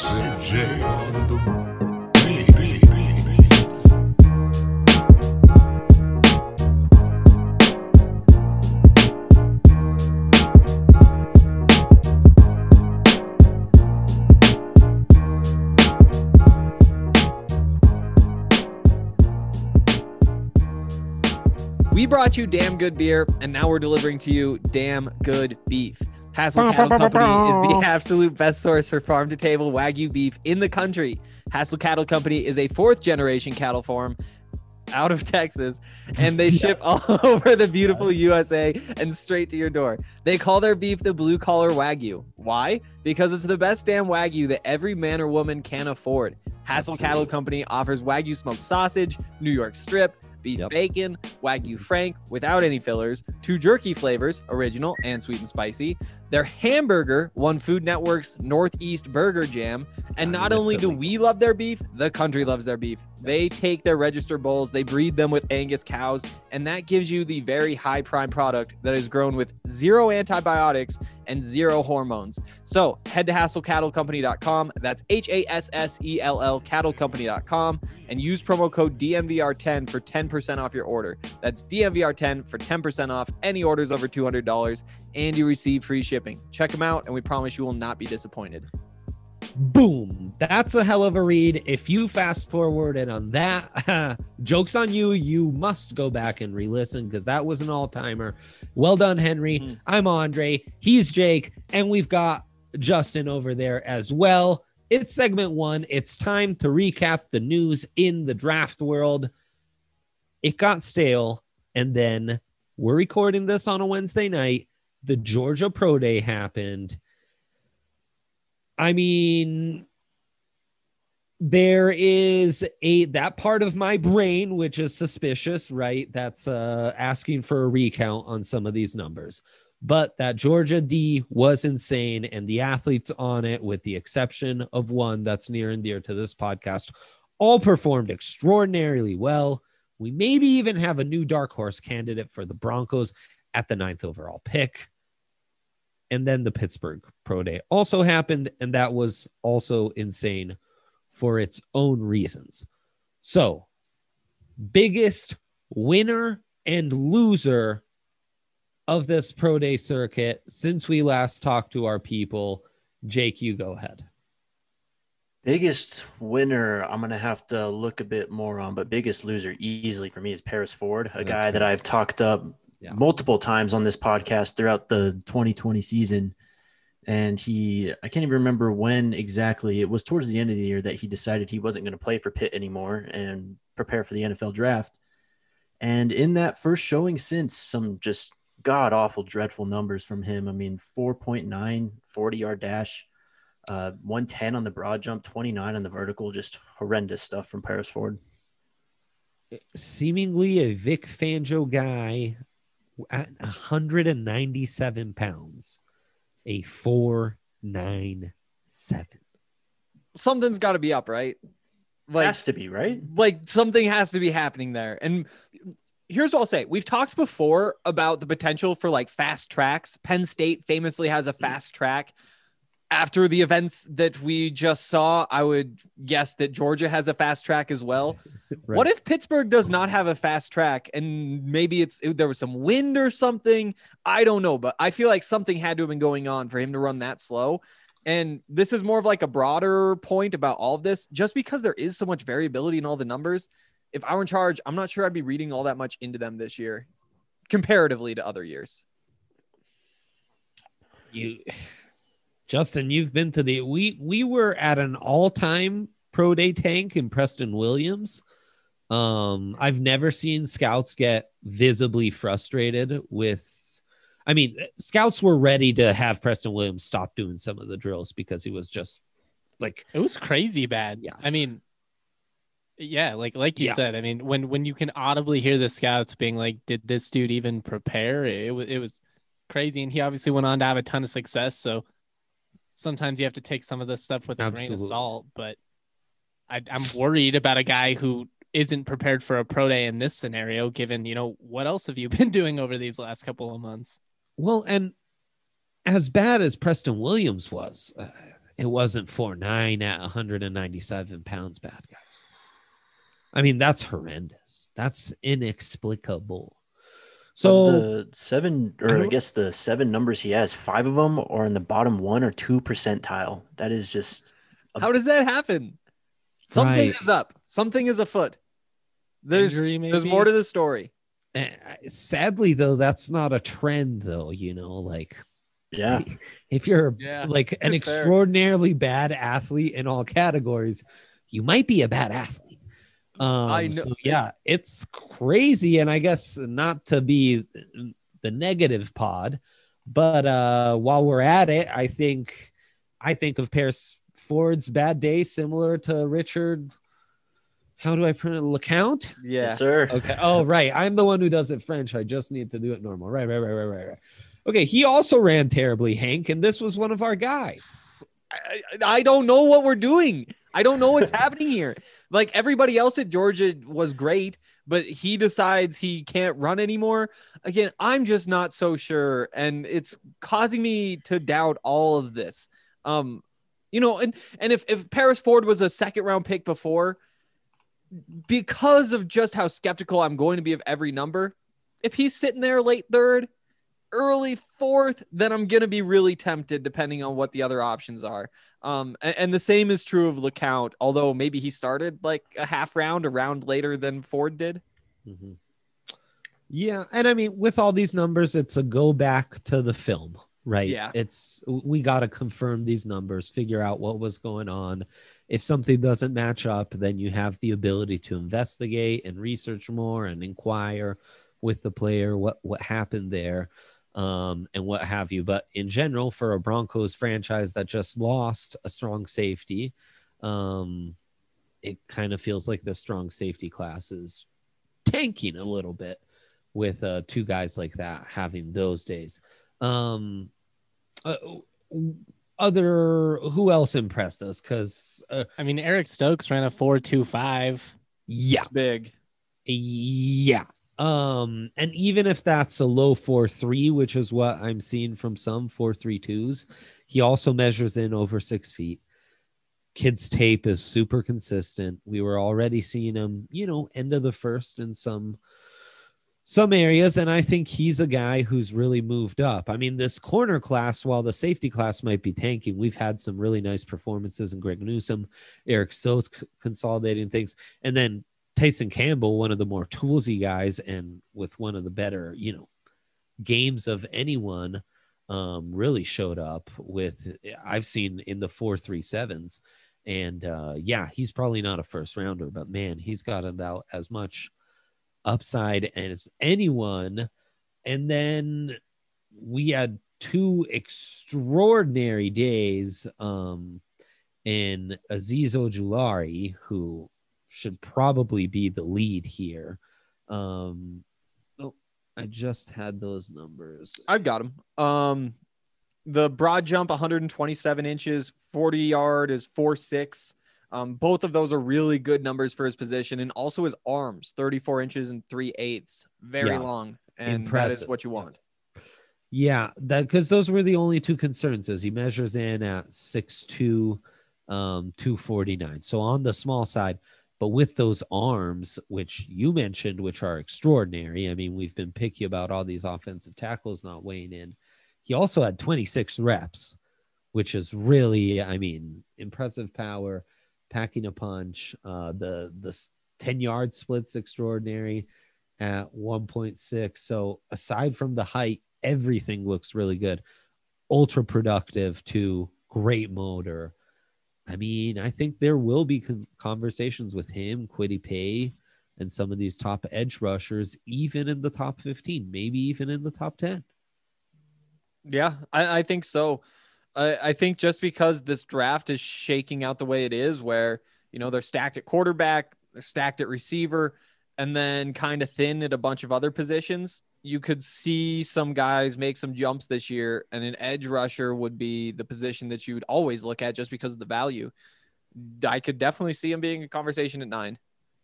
Sid J on the beat. We brought you damn good beer, and now we're delivering to you damn good beef. Hassel Cattle Company is the absolute best source for farm-to-table Wagyu beef in the country. Hassel Cattle Company is a fourth-generation cattle farm out of Texas, and they ship all over the beautiful USA and straight to your door. They call their beef the blue-collar Wagyu. Why? Because it's the best damn Wagyu that every man or woman can afford. Hassel Cattle Company offers Wagyu smoked sausage, New York strip, beef bacon, Wagyu Frank without any fillers, 2 jerky flavors, original and sweet and spicy. Their hamburger won Food Network's Northeast Burger Jam. And not only do we love their beef, the country loves their beef. They take their register bulls, they breed them with Angus cows, and that gives you the very high prime product that is grown with 0 antibiotics and 0 hormones. So head to HassellCattleCompany.com. That's HASSELL cattlecompany.com and use promo code DMVR10 for 10% off your order. That's DMVR10 for 10% off any orders over $200, and you receive free shipping. Check them out, and we promise you will not be disappointed. Boom. That's a hell of a read. If you fast forwarded on that, joke's on you. You must go back and re-listen because that was an all-timer. Well done, Henry. I'm Andre. He's Jake. And we've got Justin over there as well. It's segment 1. It's time to recap the news in the draft world. It got stale. And then we're recording this on a Wednesday night. The Georgia Pro Day happened. I mean, there is that part of my brain, which is suspicious, right? That's asking for a recount on some of these numbers. But that Georgia D was insane, and the athletes on it, with the exception of one that's near and dear to this podcast, all performed extraordinarily well. We maybe even have a new dark horse candidate for the Broncos at the 9th overall pick. And then the Pittsburgh Pro Day also happened, and that was also insane for its own reasons. So, biggest winner and loser of this Pro Day circuit since we last talked to our people. Jake, you go ahead. Biggest winner, I'm going to have to look a bit more on, but biggest loser easily for me is Paris Ford, a guy that I've talked up multiple times on this podcast throughout the 2020 season. And I can't even remember when exactly. It was towards the end of the year that he decided he wasn't going to play for Pitt anymore and prepare for the NFL draft. And in that first showing since, some just god-awful, dreadful numbers from him. I mean, 4.9, 40-yard dash, 110 on the broad jump, 29 on the vertical, just horrendous stuff from Paris Ford. Seemingly a Vic Fangio guy at 197 pounds, a 4.97. Something's got to be up, right? Like, has to be, right? Like, something has to be happening there. And here's what I'll say. We've talked before about the potential for like fast tracks. Penn State famously has a fast track. After the events that we just saw, I would guess that Georgia has a fast track as well. Right. What if Pittsburgh does not have a fast track, and maybe there was some wind or something? I don't know, but I feel like something had to have been going on for him to run that slow. And this is more of like a broader point about all of this, just because there is so much variability in all the numbers. If I were in charge, I'm not sure I'd be reading all that much into them this year comparatively to other years. Justin, you've been to we were at an all-time Pro Day tank in Preston Williams. I've never seen scouts get visibly frustrated with, I mean, scouts were ready to have Preston Williams stop doing some of the drills because he was just like, it was crazy bad. Yeah. I mean, yeah, like you said, I mean, when you can audibly hear the scouts being like, did this dude even prepare? It was crazy. And he obviously went on to have a ton of success. So sometimes you have to take some of this stuff with a grain of salt, but I'm worried about a guy who isn't prepared for a pro day in this scenario, given, what else have you been doing over these last couple of months? Well, and as bad as Preston Williams was, it wasn't 4'9" at 197 pounds, bad guys. I mean, that's horrendous. That's inexplicable. So the seven, or I guess the 7 numbers he has, 5 of them are in the bottom 1 or 2 percentile. That is just how does that happen? Something is up. Something is afoot. There's more to the story. Sadly, though, that's not a trend, though. Like, yeah, if you're like an extraordinarily bad athlete in all categories, you might be a bad athlete. I know. So, yeah, it's crazy. And I guess not to be the negative pod, but while we're at it, I think of Paris Ford's bad day similar to Richard. How do I pronounce LeCount? Yeah, yes, sir. Okay. Oh, right. I'm the one who does it French. I just need to do it normal. Right. Okay. He also ran terribly, Hank, and this was one of our guys. I don't know what we're doing. I don't know what's happening here. Like, everybody else at Georgia was great, but he decides he can't run anymore. Again, I'm just not so sure, and it's causing me to doubt all of this. And if Paris Ford was a second round pick before, because of just how skeptical I'm going to be of every number, if he's sitting there late 3rd, early 4th, then I'm going to be really tempted depending on what the other options are. And the same is true of LeCount, although maybe he started like a round later than Ford did. Mm-hmm. Yeah. And I mean, with all these numbers, it's a go back to the film, right? Yeah. We got to confirm these numbers, figure out what was going on. If something doesn't match up, then you have the ability to investigate and research more and inquire with the player what happened there, and what have you. But in general, for a Broncos franchise that just lost a strong safety, it kind of feels like the strong safety class is tanking a little bit with 2 guys like that having those days. Who else impressed us? Because I mean, Eric Stokes ran a 4.25. Yeah, it's big. Yeah. And even if that's a low 4.3, which is what I'm seeing from some 4.32s, he also measures in over 6 feet. Kid's tape is super consistent. We were already seeing him, end of the first in some areas, and I think he's a guy who's really moved up. I mean, this corner class, while the safety class might be tanking, we've had some really nice performances in Greg Newsome, Eric Stokes consolidating things, and then Tyson Campbell, one of the more toolsy guys and with one of the better, games of anyone, really showed up with, I've seen in the 4.37s. And he's probably not a first rounder, but man, he's got about as much upside as anyone. And then we had 2 extraordinary days in Azeez Ojulari, who should probably be the lead here. I just had those numbers. I've got them. The broad jump 127 inches, 40 yard is 4.6. Both of those are really good numbers for his position, and also his arms, 34 inches and 3/8, very long, and impressive. That is what you want. Yeah, that because those were the only 2 concerns. As he measures in at 6'2", 249, so on the small side. But with those arms, which you mentioned, which are extraordinary. I mean, we've been picky about all these offensive tackles not weighing in. He also had 26 reps, which is really, impressive power. Packing a punch, the 10-yard split's extraordinary at 1.6. So aside from the height, everything looks really good. Ultra productive too. Great motor. I mean, I think there will be conversations with him, Kwity Paye, and some of these top edge rushers, even in the top 15, maybe even in the top 10. Yeah, I think so. I think just because this draft is shaking out the way it is, where, they're stacked at quarterback, they're stacked at receiver, and then kind of thin at a bunch of other positions, you could see some guys make some jumps this year, and an edge rusher would be the position that you would always look at just because of the value. I could definitely see him being a conversation at 9.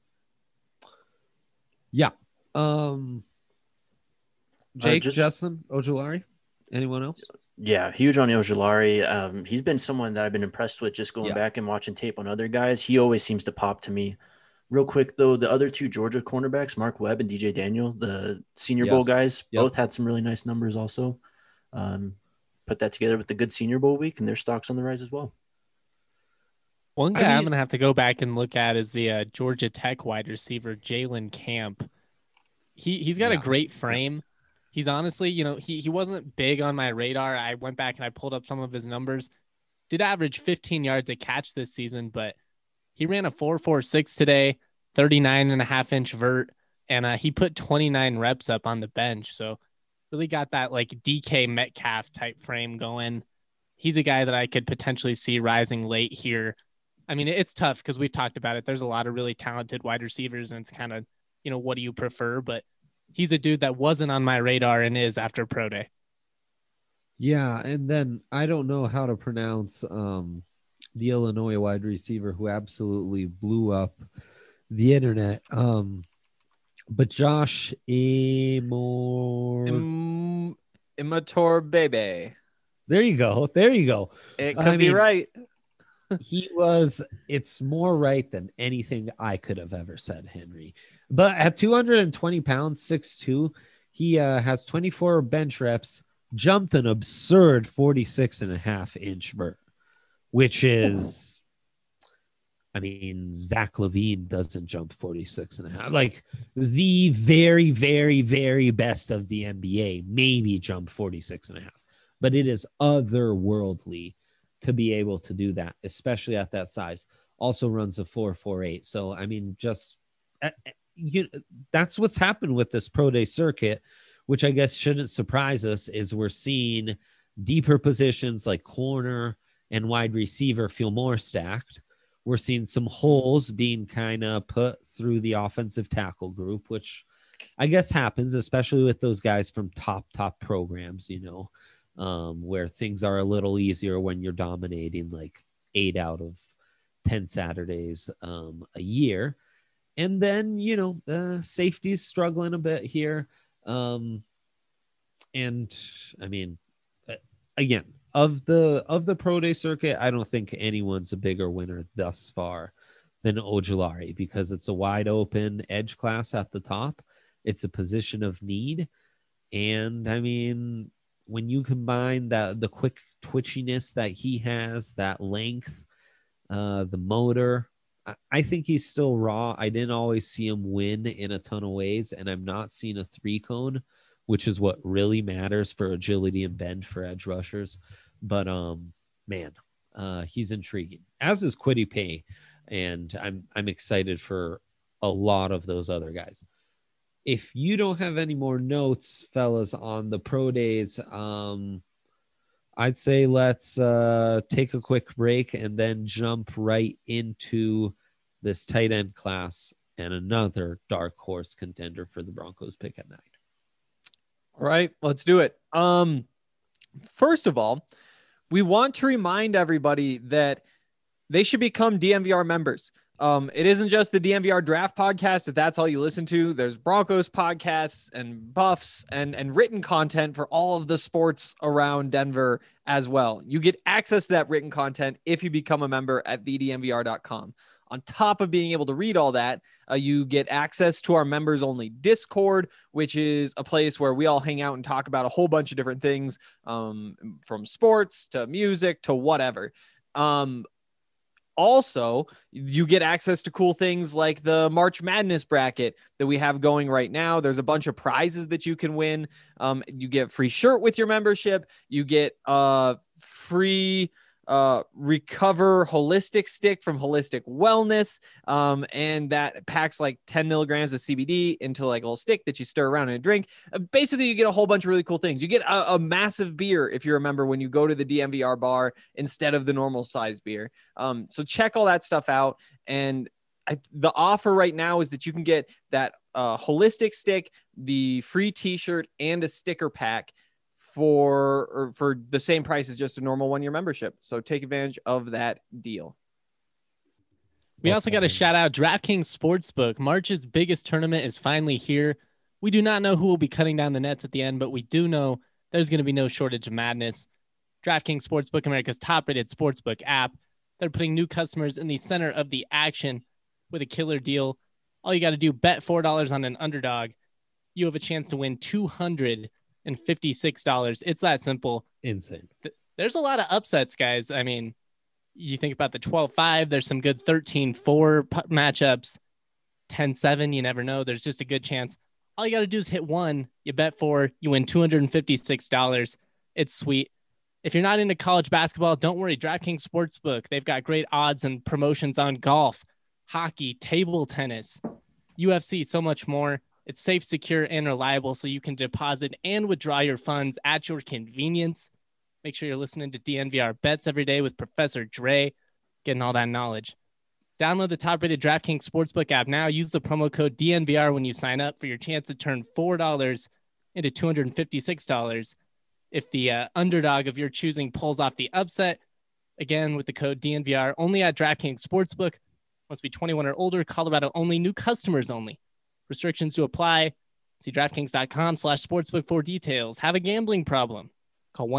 Yeah. Jake, Justin, Ojulari, anyone else? Yeah, huge on Ojulari. He's been someone that I've been impressed with just going Yeah. back and watching tape on other guys. He always seems to pop to me. Real quick, though, the other two Georgia cornerbacks, Mark Webb and DJ Daniel, the Senior Bowl guys, Yep. both had some really nice numbers also. Put that together with the good Senior Bowl week, and their stock's on the rise as well. One guy I'm going to have to go back and look at is the Georgia Tech wide receiver, Jalen Camp. He's got a great frame. He's honestly, he wasn't big on my radar. I went back and I pulled up some of his numbers. Did average 15 yards a catch this season, but he ran a 4.46 today, 39.5-inch vert, and he put 29 reps up on the bench. So really got that like DK Metcalf type frame going. He's a guy that I could potentially see rising late here. I mean, it's tough because we've talked about it. There's a lot of really talented wide receivers, and it's kind of, what do you prefer? But he's a dude that wasn't on my radar and is after Pro Day. Yeah, and then I don't know how to pronounce the Illinois wide receiver who absolutely blew up the internet. But Josh Immature baby. There you go. It could be right. It's more right than anything I could have ever said, Henry. But at 220 pounds, 6'2", he has 24 bench reps, jumped an absurd 46.5-inch vert, which is, I mean, Zach Levine doesn't jump 46.5. Like the very, very, very best of the NBA maybe jump 46.5, but it is otherworldly to be able to do that, especially at that size. Also runs a 4.48. So, I mean, just that's what's happened with this Pro Day circuit, which I guess shouldn't surprise us, is we're seeing deeper positions like corner and wide receiver feel more stacked. We're seeing some holes being kind of put through the offensive tackle group, which I guess happens, especially with those guys from top programs, where things are a little easier when you're dominating like 8 out of 10 Saturdays a year. And then, safety's struggling a bit here. And I mean, again, of the Pro Day circuit, I don't think anyone's a bigger winner thus far than Ojulari, because it's a wide open edge class at the top. It's a position of need. And I mean, when you combine the quick twitchiness that he has, that length, the motor, I think he's still raw. I didn't always see him win in a ton of ways, and I'm not seeing a 3-cone, which is what really matters for agility and bend for edge rushers. But man, he's intriguing, as is Kwity Paye, and I'm excited for a lot of those other guys. If you don't have any more notes, fellas, on the Pro Days, I'd say let's take a quick break and then jump right into this tight end class and another dark horse contender for the Broncos pick at 9. All right, let's do it. First of all, we want to remind everybody that they should become DMVR members. It isn't just the DMVR draft podcast, if that's all you listen to. There's Broncos podcasts and buffs and written content for all of the sports around Denver as well. You get access to that written content if you become a member at thedmvr.com. On top of being able to read all that, you get access to our members only Discord, which is a place where we all hang out and talk about a whole bunch of different things, from sports to music to whatever. Also, you get access to cool things like the March Madness bracket that we have going right now. There's a bunch of prizes that you can win. You get free shirt with your membership. You get free Recover Holistic Stick from Holistic Wellness. And that packs like 10 milligrams of CBD into like a little stick that you stir around in a drink. Basically, you get a whole bunch of really cool things. You get a massive beer, if you remember, when you go to the DMVR bar instead of the normal size beer. So check all that stuff out. And the offer right now is that you can get that holistic stick, the free t-shirt, and a sticker pack for the same price as just a normal 1-year membership. So take advantage of that deal. We also got to shout out DraftKings Sportsbook. March's biggest tournament is finally here. We do not know who will be cutting down the nets at the end, but we do know there's going to be no shortage of madness. DraftKings Sportsbook, America's top-rated sportsbook app. They're putting new customers in the center of the action with a killer deal. All you got to do, bet $4 on an underdog. You have a chance to win $256. It's that simple. Insane. There's a lot of upsets, guys. I mean, you think about the 12-5, there's some good 13-4 matchups. 10-7, you never know. There's just a good chance. All you got to do is hit one. You bet four. You win $256. It's sweet. If you're not into college basketball, don't worry. DraftKings Sportsbook, they've got great odds and promotions on golf, hockey, table tennis, UFC, so much more. It's safe, secure, and reliable, so you can deposit and withdraw your funds at your convenience. Make sure you're listening to DNVR Bets every day with Professor Dre, getting all that knowledge. Download the top-rated DraftKings Sportsbook app now. Use the promo code DNVR when you sign up for your chance to turn $4 into $256 if the underdog of your choosing pulls off the upset. Again, with the code DNVR, only at DraftKings Sportsbook. Must be 21 or older. Colorado only. New customers only. Restrictions to apply. See DraftKings.com/sportsbook for details. Have a gambling problem? Call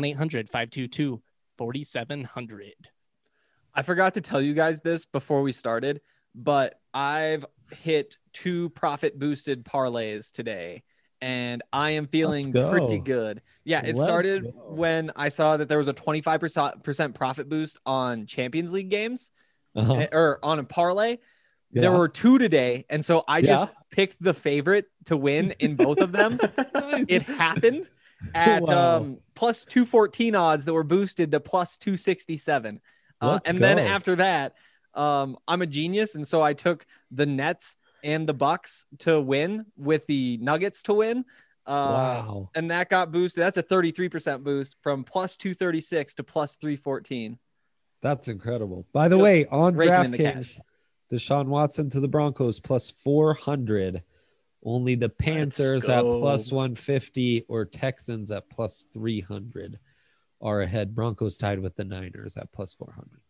1-800-522-4700. I forgot to tell you guys this before we started, but I've hit 2 profit boosted parlays today, and I am feeling pretty good. Yeah, it started when I saw that there was a 25% profit boost on Champions League games or on a parlay. Yeah. There were 2 today, and so I just picked the favorite to win in both of them. Nice. It happened at plus 214 odds that were boosted to plus 267. Then after that, I'm a genius, and so I took the Nets and the Bucks to win with the Nuggets to win. And that got boosted. That's a 33% boost from plus 236 to plus 314. That's incredible. By the way, on DraftKings, Deshaun Watson to the Broncos plus 400. Only the Panthers at plus 150 or Texans at plus 300 are ahead. Broncos tied with the Niners at plus 400.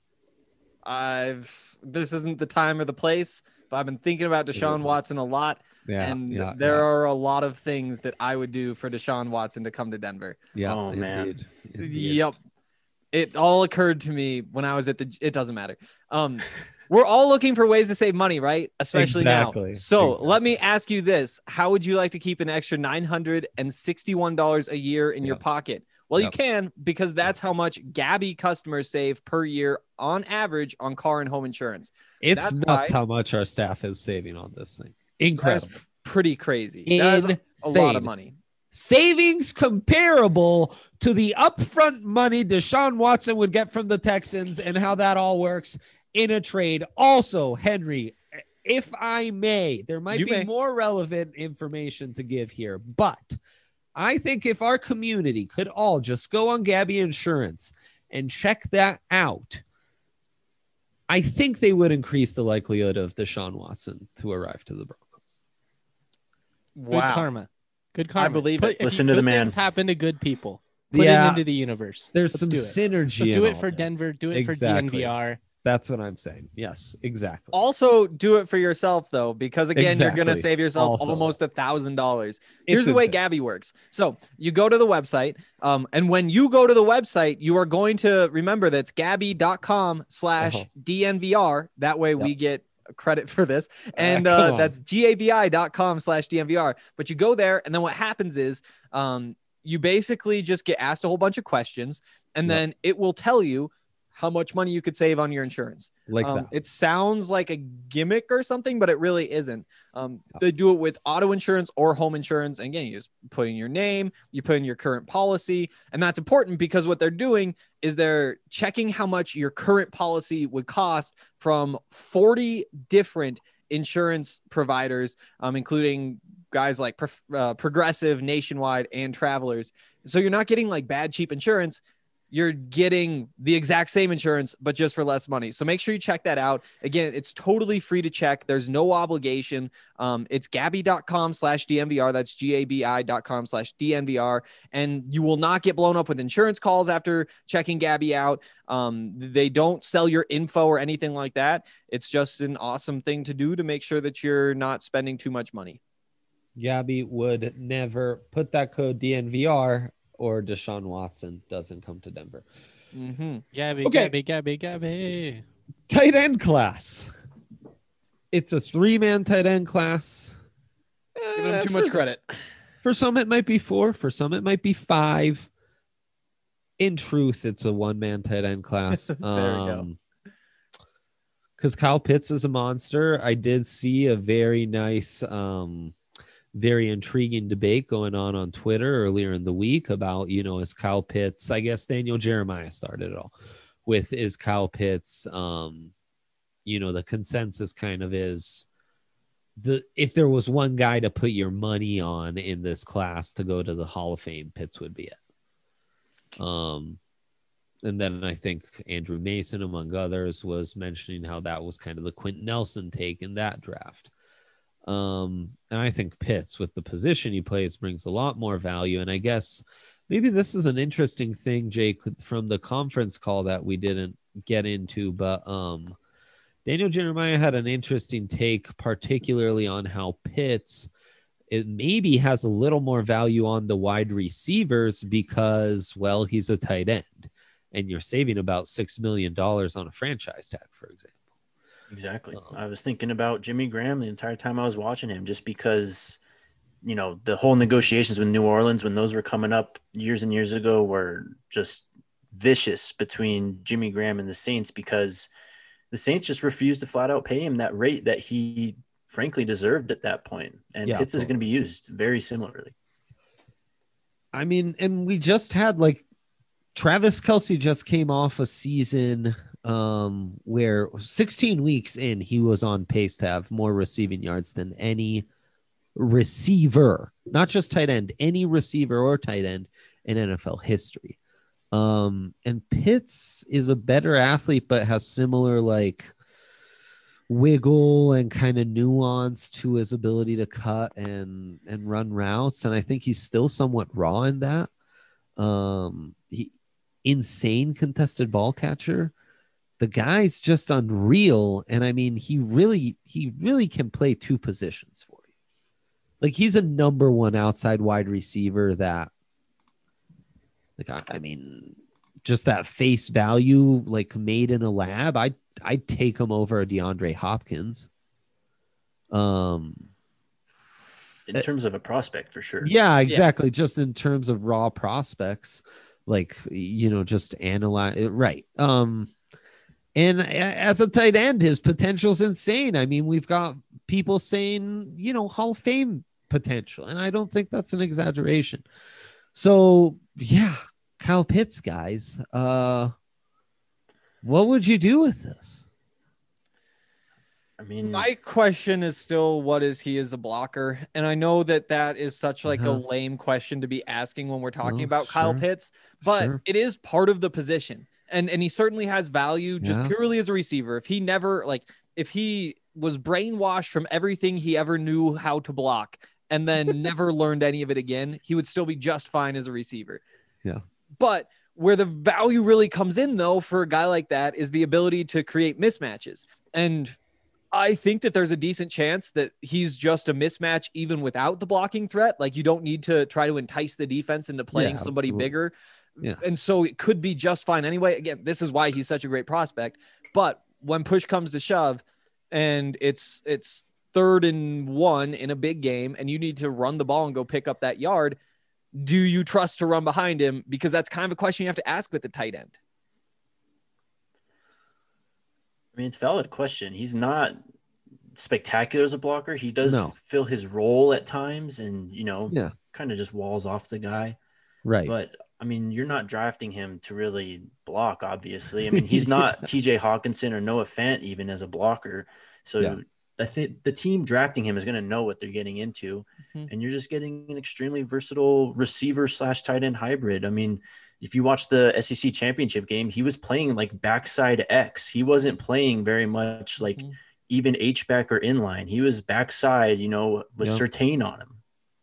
This isn't the time or the place, but I've been thinking about Deshaun Watson a lot. There are a lot of things that I would do for Deshaun Watson to come to Denver. Yeah. Oh, man. Yep. It all occurred to me when I was at it doesn't matter. We're all looking for ways to save money, right? Especially now. So let me ask you this. How would you like to keep an extra $961 a year in your pocket? Well, you can, because that's how much Gabby customers save per year on average on car and home insurance. It's nuts how much our staff is saving on this thing. Incredible. That's pretty crazy. That's a lot of money. Savings comparable to the upfront money Deshaun Watson would get from the Texans and how that all works in a trade. Also, Henry, if I may, there might be more relevant information to give here, but I think if our community could all just go on Gabby Insurance and check that out, I think they would increase the likelihood of Deshaun Watson to arrive to the Broncos. Wow. Good karma. Good karma. I believe it. Listen to the man. Things happen to good people. Put it into the universe. There's some synergy. So do it for Denver. Do it for DNVR. That's what I'm saying. Yes, exactly. Also, do it for yourself, though, because, again, you're going to save yourself almost $1,000. Here's the way Gabby works. So you go to the website, and when you go to the website, you are going to remember that's gabby.com/DNVR. That way we get credit for this. And that's gabi.com/DNVR. But you go there, and then what happens is you basically just get asked a whole bunch of questions, and then it will tell you how much money you could save on your insurance. It sounds like a gimmick or something, but it really isn't. They do it with auto insurance or home insurance. And again, you just put in your name, you put in your current policy. And that's important because what they're doing is they're checking how much your current policy would cost from 40 different insurance providers, including guys like Progressive, Nationwide, and Travelers. So you're not getting like bad, cheap insurance. You're getting the exact same insurance, but just for less money. So make sure you check that out. Again, it's totally free to check. There's no obligation. It's gabi.com/DNVR. That's gabi.com/DNVR. And you will not get blown up with insurance calls after checking Gabby out. They don't sell your info or anything like that. It's just an awesome thing to do to make sure that you're not spending too much money. Gabby would never put that code DNVR or Deshaun Watson doesn't come to Denver. Gabby, Okay. Gabby. Tight end class. It's a 3-man tight end class. Give him too much credit. For some, it might be 4. For some, it might be 5. In truth, it's a 1-man tight end class. There we go. Because Kyle Pitts is a monster. I did see a very nice, very intriguing debate going on Twitter earlier in the week about, is Kyle Pitts, I guess Daniel Jeremiah started it all with, is Kyle Pitts, the consensus kind of is if there was one guy to put your money on in this class to go to the Hall of Fame, Pitts would be it. And then I think Andrew Mason, among others, was mentioning how that was kind of the Quentin Nelson take in that draft. And I think Pitts, with the position he plays, brings a lot more value. And I guess maybe this is an interesting thing, Jake, from the conference call that we didn't get into, but Daniel Jeremiah had an interesting take, particularly on how Pitts, it maybe has a little more value on the wide receivers because, well, he's a tight end and you're saving about $6 million on a franchise tag, for example. Exactly. I was thinking about Jimmy Graham the entire time I was watching him, just because, the whole negotiations with New Orleans, when those were coming up years and years ago, were just vicious between Jimmy Graham and the Saints, because the Saints just refused to flat out pay him that rate that he frankly deserved at that point. And Pitts is going to be used very similarly. I mean, and we just had Travis Kelce just came off a season where 16 weeks in, he was on pace to have more receiving yards than any receiver, not just tight end, any receiver or tight end in NFL history. And Pitts is a better athlete, but has similar wiggle and kind of nuance to his ability to cut and run routes. And I think he's still somewhat raw in that. Insane contested ball catcher. The guy's just unreal. And I mean, he really can play 2 positions for you. He's a number 1 outside wide receiver that, I mean, just that face value, made in a lab, I'd take him over a DeAndre Hopkins. In terms of a prospect, for sure. Yeah, exactly. Yeah. Just in terms of raw prospects, just analyze it. Right. And as a tight end, his potential's insane. I mean, we've got people saying, Hall of Fame potential, and I don't think that's an exaggeration. So yeah, Kyle Pitts, guys, what would you do with this? I mean, my question is still, what is he as a blocker? And I know that is such a lame question to be asking when we're talking about Kyle Pitts, but it is part of the position. And he certainly has value just purely as a receiver. If he never, if he was brainwashed from everything he ever knew how to block and then never learned any of it again, he would still be just fine as a receiver. Yeah. But where the value really comes in, though, for a guy like that is the ability to create mismatches. And I think that there's a decent chance that he's just a mismatch even without the blocking threat. You don't need to try to entice the defense into playing somebody bigger. Yeah. And so it could be just fine anyway. Again, this is why he's such a great prospect. But when push comes to shove and it's 3rd and 1 in a big game and you need to run the ball and go pick up that yard, do you trust to run behind him? Because that's kind of a question you have to ask with the tight end. I mean, it's a valid question. He's not spectacular as a blocker. He does fill his role at times and, kind of just walls off the guy. Right. But I mean, you're not drafting him to really block, obviously. I mean, he's not TJ Hawkinson or Noah Fant even as a blocker. So I think the team drafting him is going to know what they're getting into. And you're just getting an extremely versatile receiver / tight end hybrid. I mean, if you watch the SEC championship game, he was playing backside X. He wasn't playing very much even H-back or inline. He was backside, with Surtain on him.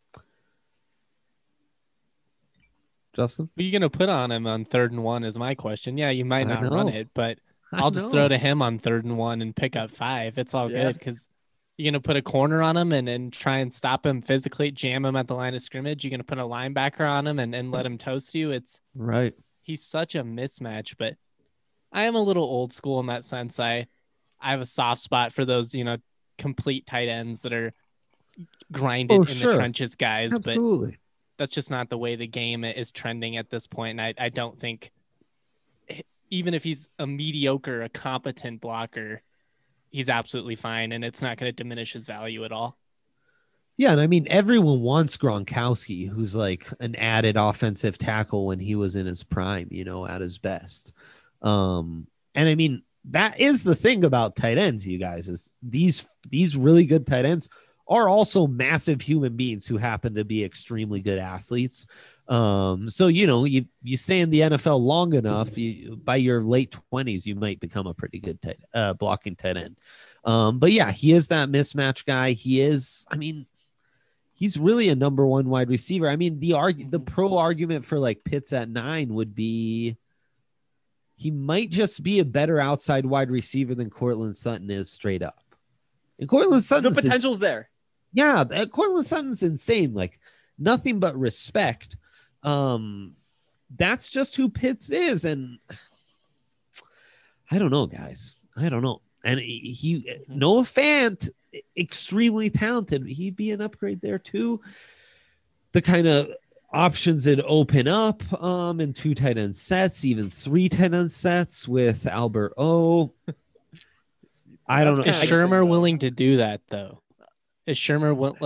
Justin? Who are you going to put on him on 3rd and 1 is my question. Yeah, you might not run it, but I'll just throw to him on 3rd and 1 and pick up 5. It's all good because You gonna put a corner on him and try and stop him physically, jam him at the line of scrimmage? You gonna put a linebacker on him and let him toast you? Right. He's such a mismatch, but I am a little old school in that sense. I have a soft spot for those, complete tight ends that are grinded in the trenches guys. Absolutely. But that's just not the way the game is trending at this point. And I don't think, even if he's a mediocre, a competent blocker, he's absolutely fine. And it's not going to diminish his value at all. Yeah, and I mean, everyone wants Gronkowski, who's like an added offensive tackle when he was in his prime, at his best. And I mean, that is the thing about tight ends, you guys, is these really good tight ends are also massive human beings who happen to be extremely good athletes. So, you stay in the NFL long enough, by your late 20s, you might become a pretty good blocking tight end. But yeah, he is that mismatch guy. He's really a number one wide receiver. I mean, the pro argument for like Pitts at 9 would be he might just be a better outside wide receiver than Courtland Sutton is straight up. And Courtland Sutton, the potential's there. Yeah, Courtland Sutton's insane. Like nothing but respect. That's just who Pitts is, and I don't know, guys. I don't know. And Noah Fant, extremely talented. He'd be an upgrade there too. The kind of options that open up in 2 tight end sets, even 3 tight end sets with Albert O. I don't know. Is Shurmur willing to do that though? Is Shurmur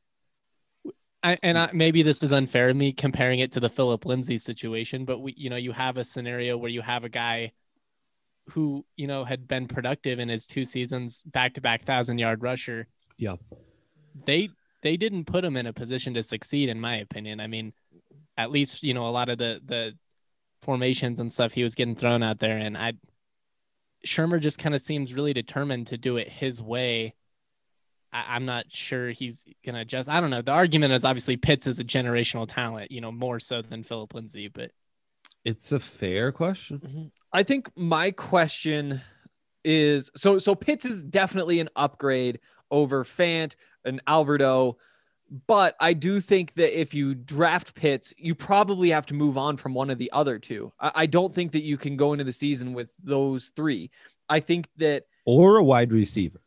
maybe this is unfair of me comparing it to the Phillip Lindsay situation, but you have a scenario where you have a guy who, had been productive in his 2 seasons, back-to-back 1,000-yard rusher. Yeah. They didn't put him in a position to succeed, in my opinion. I mean, at least, a lot of the formations and stuff he was getting thrown out there. And Shurmur just kind of seems really determined to do it his way. I'm not sure he's going to adjust. I don't know. The argument is obviously Pitts is a generational talent, more so than Phillip Lindsay, but it's a fair question. Mm-hmm. I think my question is, so Pitts is definitely an upgrade over Fant and Alberto, but I do think that if you draft Pitts, you probably have to move on from one of the other 2. I don't think that you can go into the season with those 3. I think that, or a wide receiver.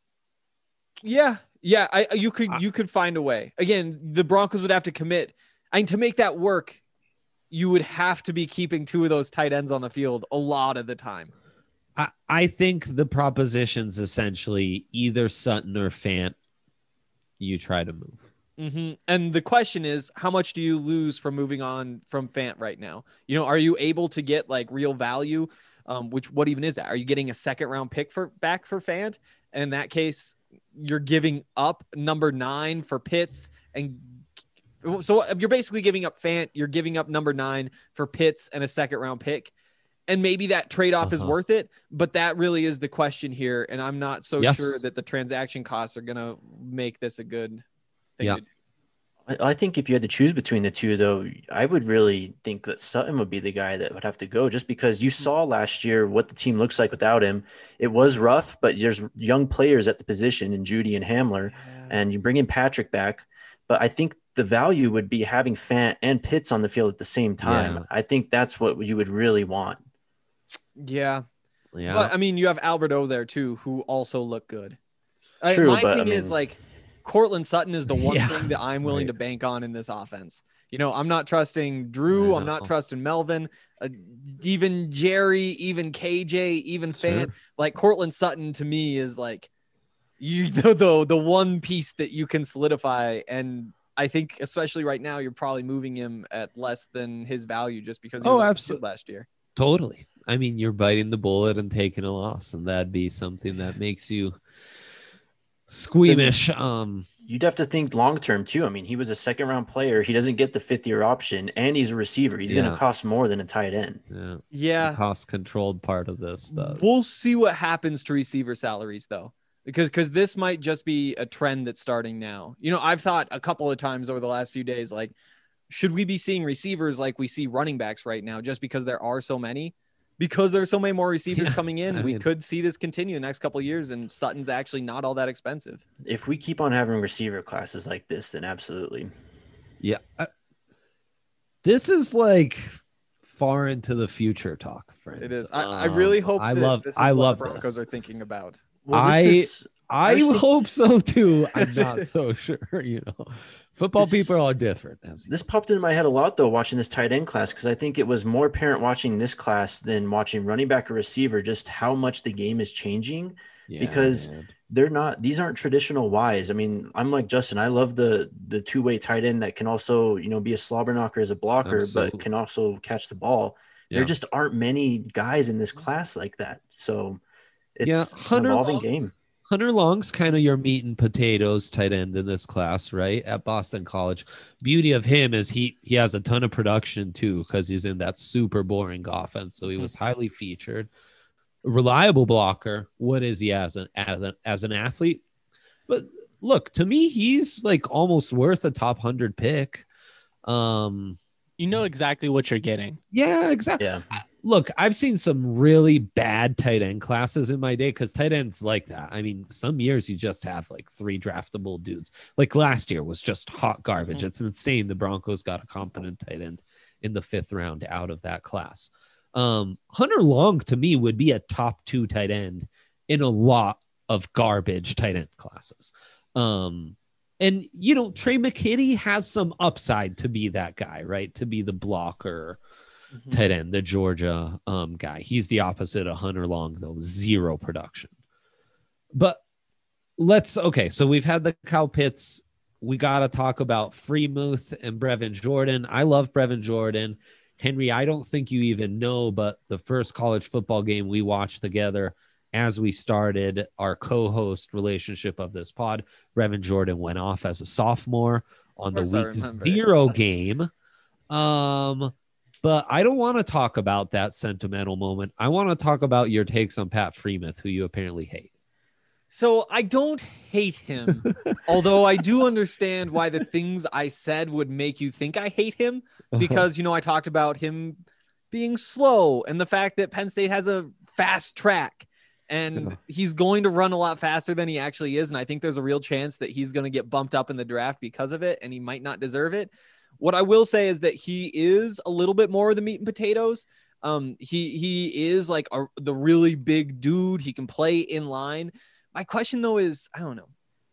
Yeah. You could find a way. Again, the Broncos would have to commit. To make that work, you would have to be keeping 2 of those tight ends on the field a lot of the time. I think the proposition's essentially either Sutton or Fant. You try to move. Mm-hmm. And the question is, how much do you lose from moving on from Fant right now? Are you able to get like real value? What even is that? Are you getting a 2nd round pick back for Fant? And in that case, you're giving up number 9 for Pitts. And so you're basically giving up Fant. You're giving up number 9 for Pitts and a 2nd round pick. And maybe that trade-off is worth it, but that really is the question here. And I'm not so sure that the transaction costs are going to make this a good thing to do. I think if you had to choose between the 2, though, I would really think that Sutton would be the guy that would have to go, just because you saw last year what the team looks like without him. It was rough, but there's young players at the position in Judy and Hamler, and you bring in Patrick back. But I think the value would be having Fant and Pitts on the field at the same time. Yeah. I think that's what you would really want. Yeah. But I mean, you have Alberto there too, who also look good. True, my thing is like Courtland Sutton is the one thing that I'm willing to bank on in this offense. I'm not trusting Drew. I'm not trusting Melvin, even Jerry, even KJ, even Fant. Like Courtland Sutton to me is like the one piece that you can solidify. And I think especially right now, you're probably moving him at less than his value just because he was absolutely last year. Totally. I mean, you're biting the bullet and taking a loss, and that'd be something that makes you squeamish. You'd have to think long-term too. I mean, he was a 2nd round player. He doesn't get the 5th-year option, and he's a receiver. He's going to cost more than a tight end. Yeah. The cost controlled part of this stuff. We'll see what happens to receiver salaries though, because this might just be a trend that's starting now. I've thought a couple of times over the last few days, like, should we be seeing receivers like we see running backs right now just because there are so many? because there's so many more receivers Yeah, coming in, I we mean- could see this continue the next couple of years, and Sutton's actually not all that expensive. If we keep on having receiver classes like this, then absolutely. Yeah. This is like far into the future talk, friends. It is. I really hope I that love this is I what love the Broncos this. are thinking about. Well, I this is actually- hope so too. I'm not so sure, Football This- people are different. This popped into my head a lot though, watching this tight end class, because I think it was more apparent watching this class than watching running back or receiver, just how much the game is changing. because these aren't traditional Ys. I mean, I'm like Justin. I love the two-way tight end that can also, be a slobber knocker as a blocker, Absolutely. but can also catch the ball. Yeah. There just aren't many guys in this class like that. So it's an Hunter evolving Long- game. Hunter Long's kind of your meat and potatoes tight end in this class, right? At Boston College. Beauty of him is he has a ton of production too, because he's in that super boring offense. So he was highly featured. Reliable blocker. What is he as an athlete? But look, to me, he's like almost worth a top 100 pick. You know exactly what you're getting. Yeah, exactly. Yeah. Look, I've seen some really bad tight end classes in my day because tight ends like that. I mean, some years you just have like 3 draftable dudes. Like last year was just hot garbage. It's insane. The Broncos got a competent tight end in the 5th round out of that class. Hunter Long to me would be a top 2 tight end in a lot of garbage tight end classes. And Trey McKitty has some upside to be that guy, right? To be the blocker. Tight end, the Georgia guy. He's the opposite of Hunter Long, though. 0 production. But so we've had the Kyle Pitts. We got to talk about Freemuth and Brevin Jordan. I love Brevin Jordan. Henry, I don't think you even know, but the first college football game we watched together as we started our co-host relationship of this pod, Brevin Jordan went off as a sophomore on the Of course I week remember 0 game. But I don't want to talk about that sentimental moment. I want to talk about your takes on Pat Freemuth, who you apparently hate. So I don't hate him, although I do understand why the things I said would make you think I hate him, because, I talked about him being slow and the fact that Penn State has a fast track and he's going to run a lot faster than he actually is. And I think there's a real chance that he's going to get bumped up in the draft because of it, and he might not deserve it. What I will say is that he is a little bit more of the meat and potatoes. He is like the really big dude. He can play in line. My question though is, I don't know.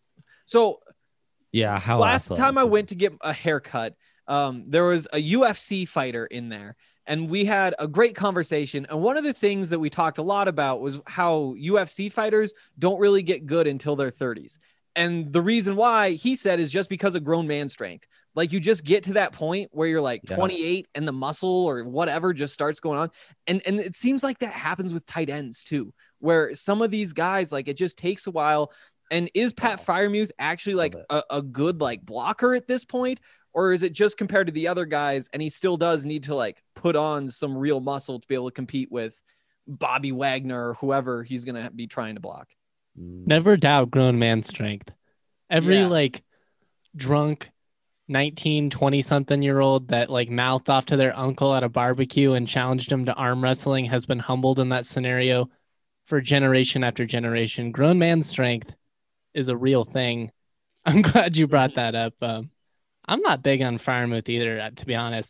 So yeah, how last time I went to get a haircut, there was a UFC fighter in there, and we had a great conversation. And one of the things that we talked a lot about was how UFC fighters don't really get good until their 30s. And the reason why, he said, is just because of grown man strength. Like you just get to that point where you're like 28 and the muscle or whatever just starts going on. And it seems like that happens with tight ends too, where some of these guys, like it just takes a while. And is Pat Freiermuth actually like a good like blocker at this point? Or is it just compared to the other guys and he still does need to like put on some real muscle to be able to compete with Bobby Wagner or whoever he's going to be trying to block? Never doubt grown man strength. Every like drunk 19, 20 something year old that like mouthed off to their uncle at a barbecue and challenged him to arm wrestling has been humbled in that scenario for generation after generation. Grown man strength is a real thing. I'm glad you brought that up. I'm not big on Freiermuth either, to be honest.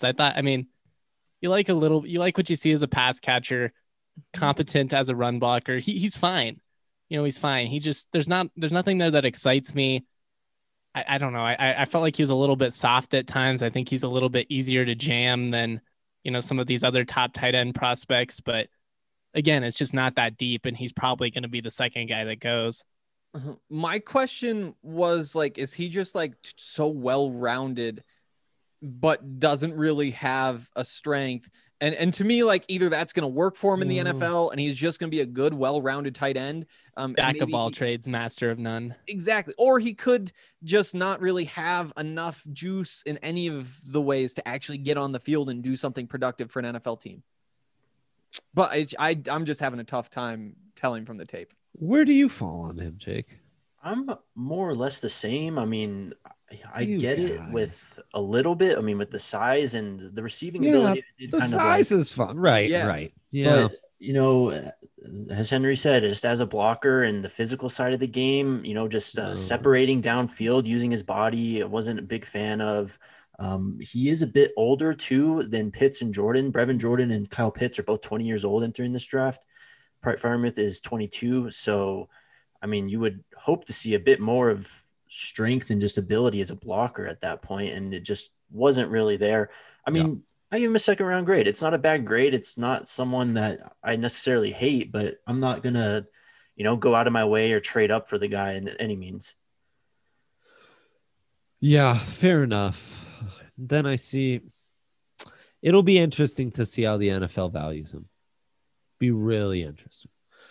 You like what you see as a pass catcher, competent as a run blocker. He's fine. He's fine. There's nothing there that excites me. I don't know. I felt like he was a little bit soft at times. I think he's a little bit easier to jam than, some of these other top tight end prospects. But again, it's just not that deep, and he's probably going to be the second guy that goes. My question was like, is he just like so well-rounded, but doesn't really have a strength? And to me, like either that's going to work for him in the NFL and he's just going to be a good, well-rounded tight end. Jack of all trades, master of none. Exactly. Or he could just not really have enough juice in any of the ways to actually get on the field and do something productive for an NFL team. But I'm just having a tough time telling from the tape. Where do you fall on him, Jake? I'm more or less the same. I mean, I get it with a little bit. I mean, with the size and the receiving ability. The size is fun. Right. Yeah. Right. Yeah. But As Henry said, just as a blocker and the physical side of the game, just separating downfield, using his body, I wasn't a big fan of. He is a bit older too than Pitts and Jordan. Brevin Jordan and Kyle Pitts are both 20 years old entering this draft. Freiermuth is 22. So, I mean, you would hope to see a bit more of strength and just ability as a blocker at that point, and it just wasn't really there. I mean, I give him a second round grade. It's not a bad grade. It's not someone that I necessarily hate, but I'm not going to, go out of my way or trade up for the guy in any means. Yeah, fair enough. Then I see it'll be interesting to see how the NFL values him. Be really interesting.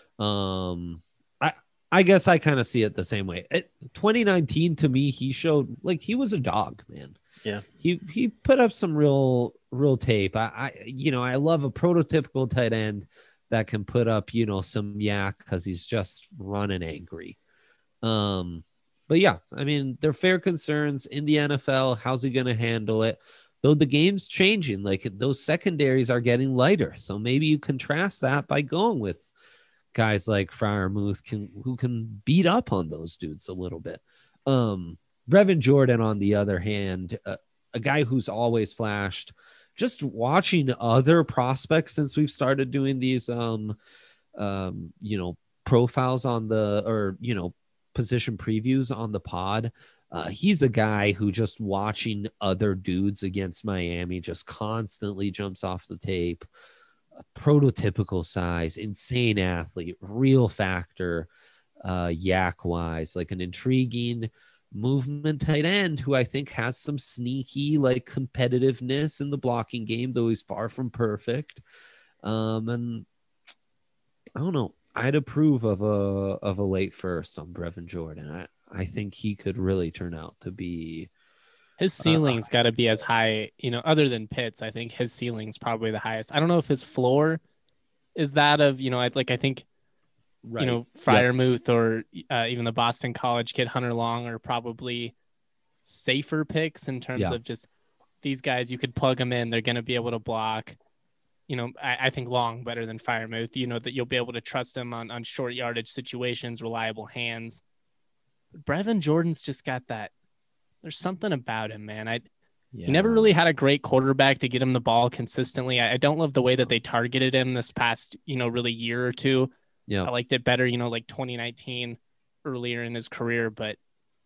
I guess I kind of see it the same way. 2019 to me, he showed like he was a dog, man. Yeah. He put up some real tape. I love a prototypical tight end that can put up, some yak because he's just running angry. But yeah, I mean, they're fair concerns in the NFL. How's he going to handle it? Though the game's changing, like those secondaries are getting lighter. So maybe you contrast that by going with guys like Freiermuth who can beat up on those dudes a little bit. Brevin Jordan, on the other hand, a guy who's always flashed. Just watching other prospects since we've started doing these, profiles on position previews on the pod. He's a guy who just watching other dudes against Miami just constantly jumps off the tape. Prototypical size, insane athlete, real factor, yak wise, like an intriguing movement tight end who I think has some sneaky like competitiveness in the blocking game, though he's far from perfect. And I don't know. I'd approve of a late first on Brevin Jordan. I think he could really turn out to be. His ceiling's got to be as high, other than Pitts. I think his ceiling's probably the highest. I don't know if his floor is that of, I think, right. Freiermuth or even the Boston College kid Hunter Long are probably safer picks in terms of just these guys. You could plug them in. They're going to be able to block. I think Long better than Freiermuth, that you'll be able to trust him on short yardage situations, reliable hands. Brevin Jordan's just got that. There's something about him, man. He never really had a great quarterback to get him the ball consistently. I don't love the way that they targeted him this past, really year or two. Yeah. I liked it better, like 2019 earlier in his career, but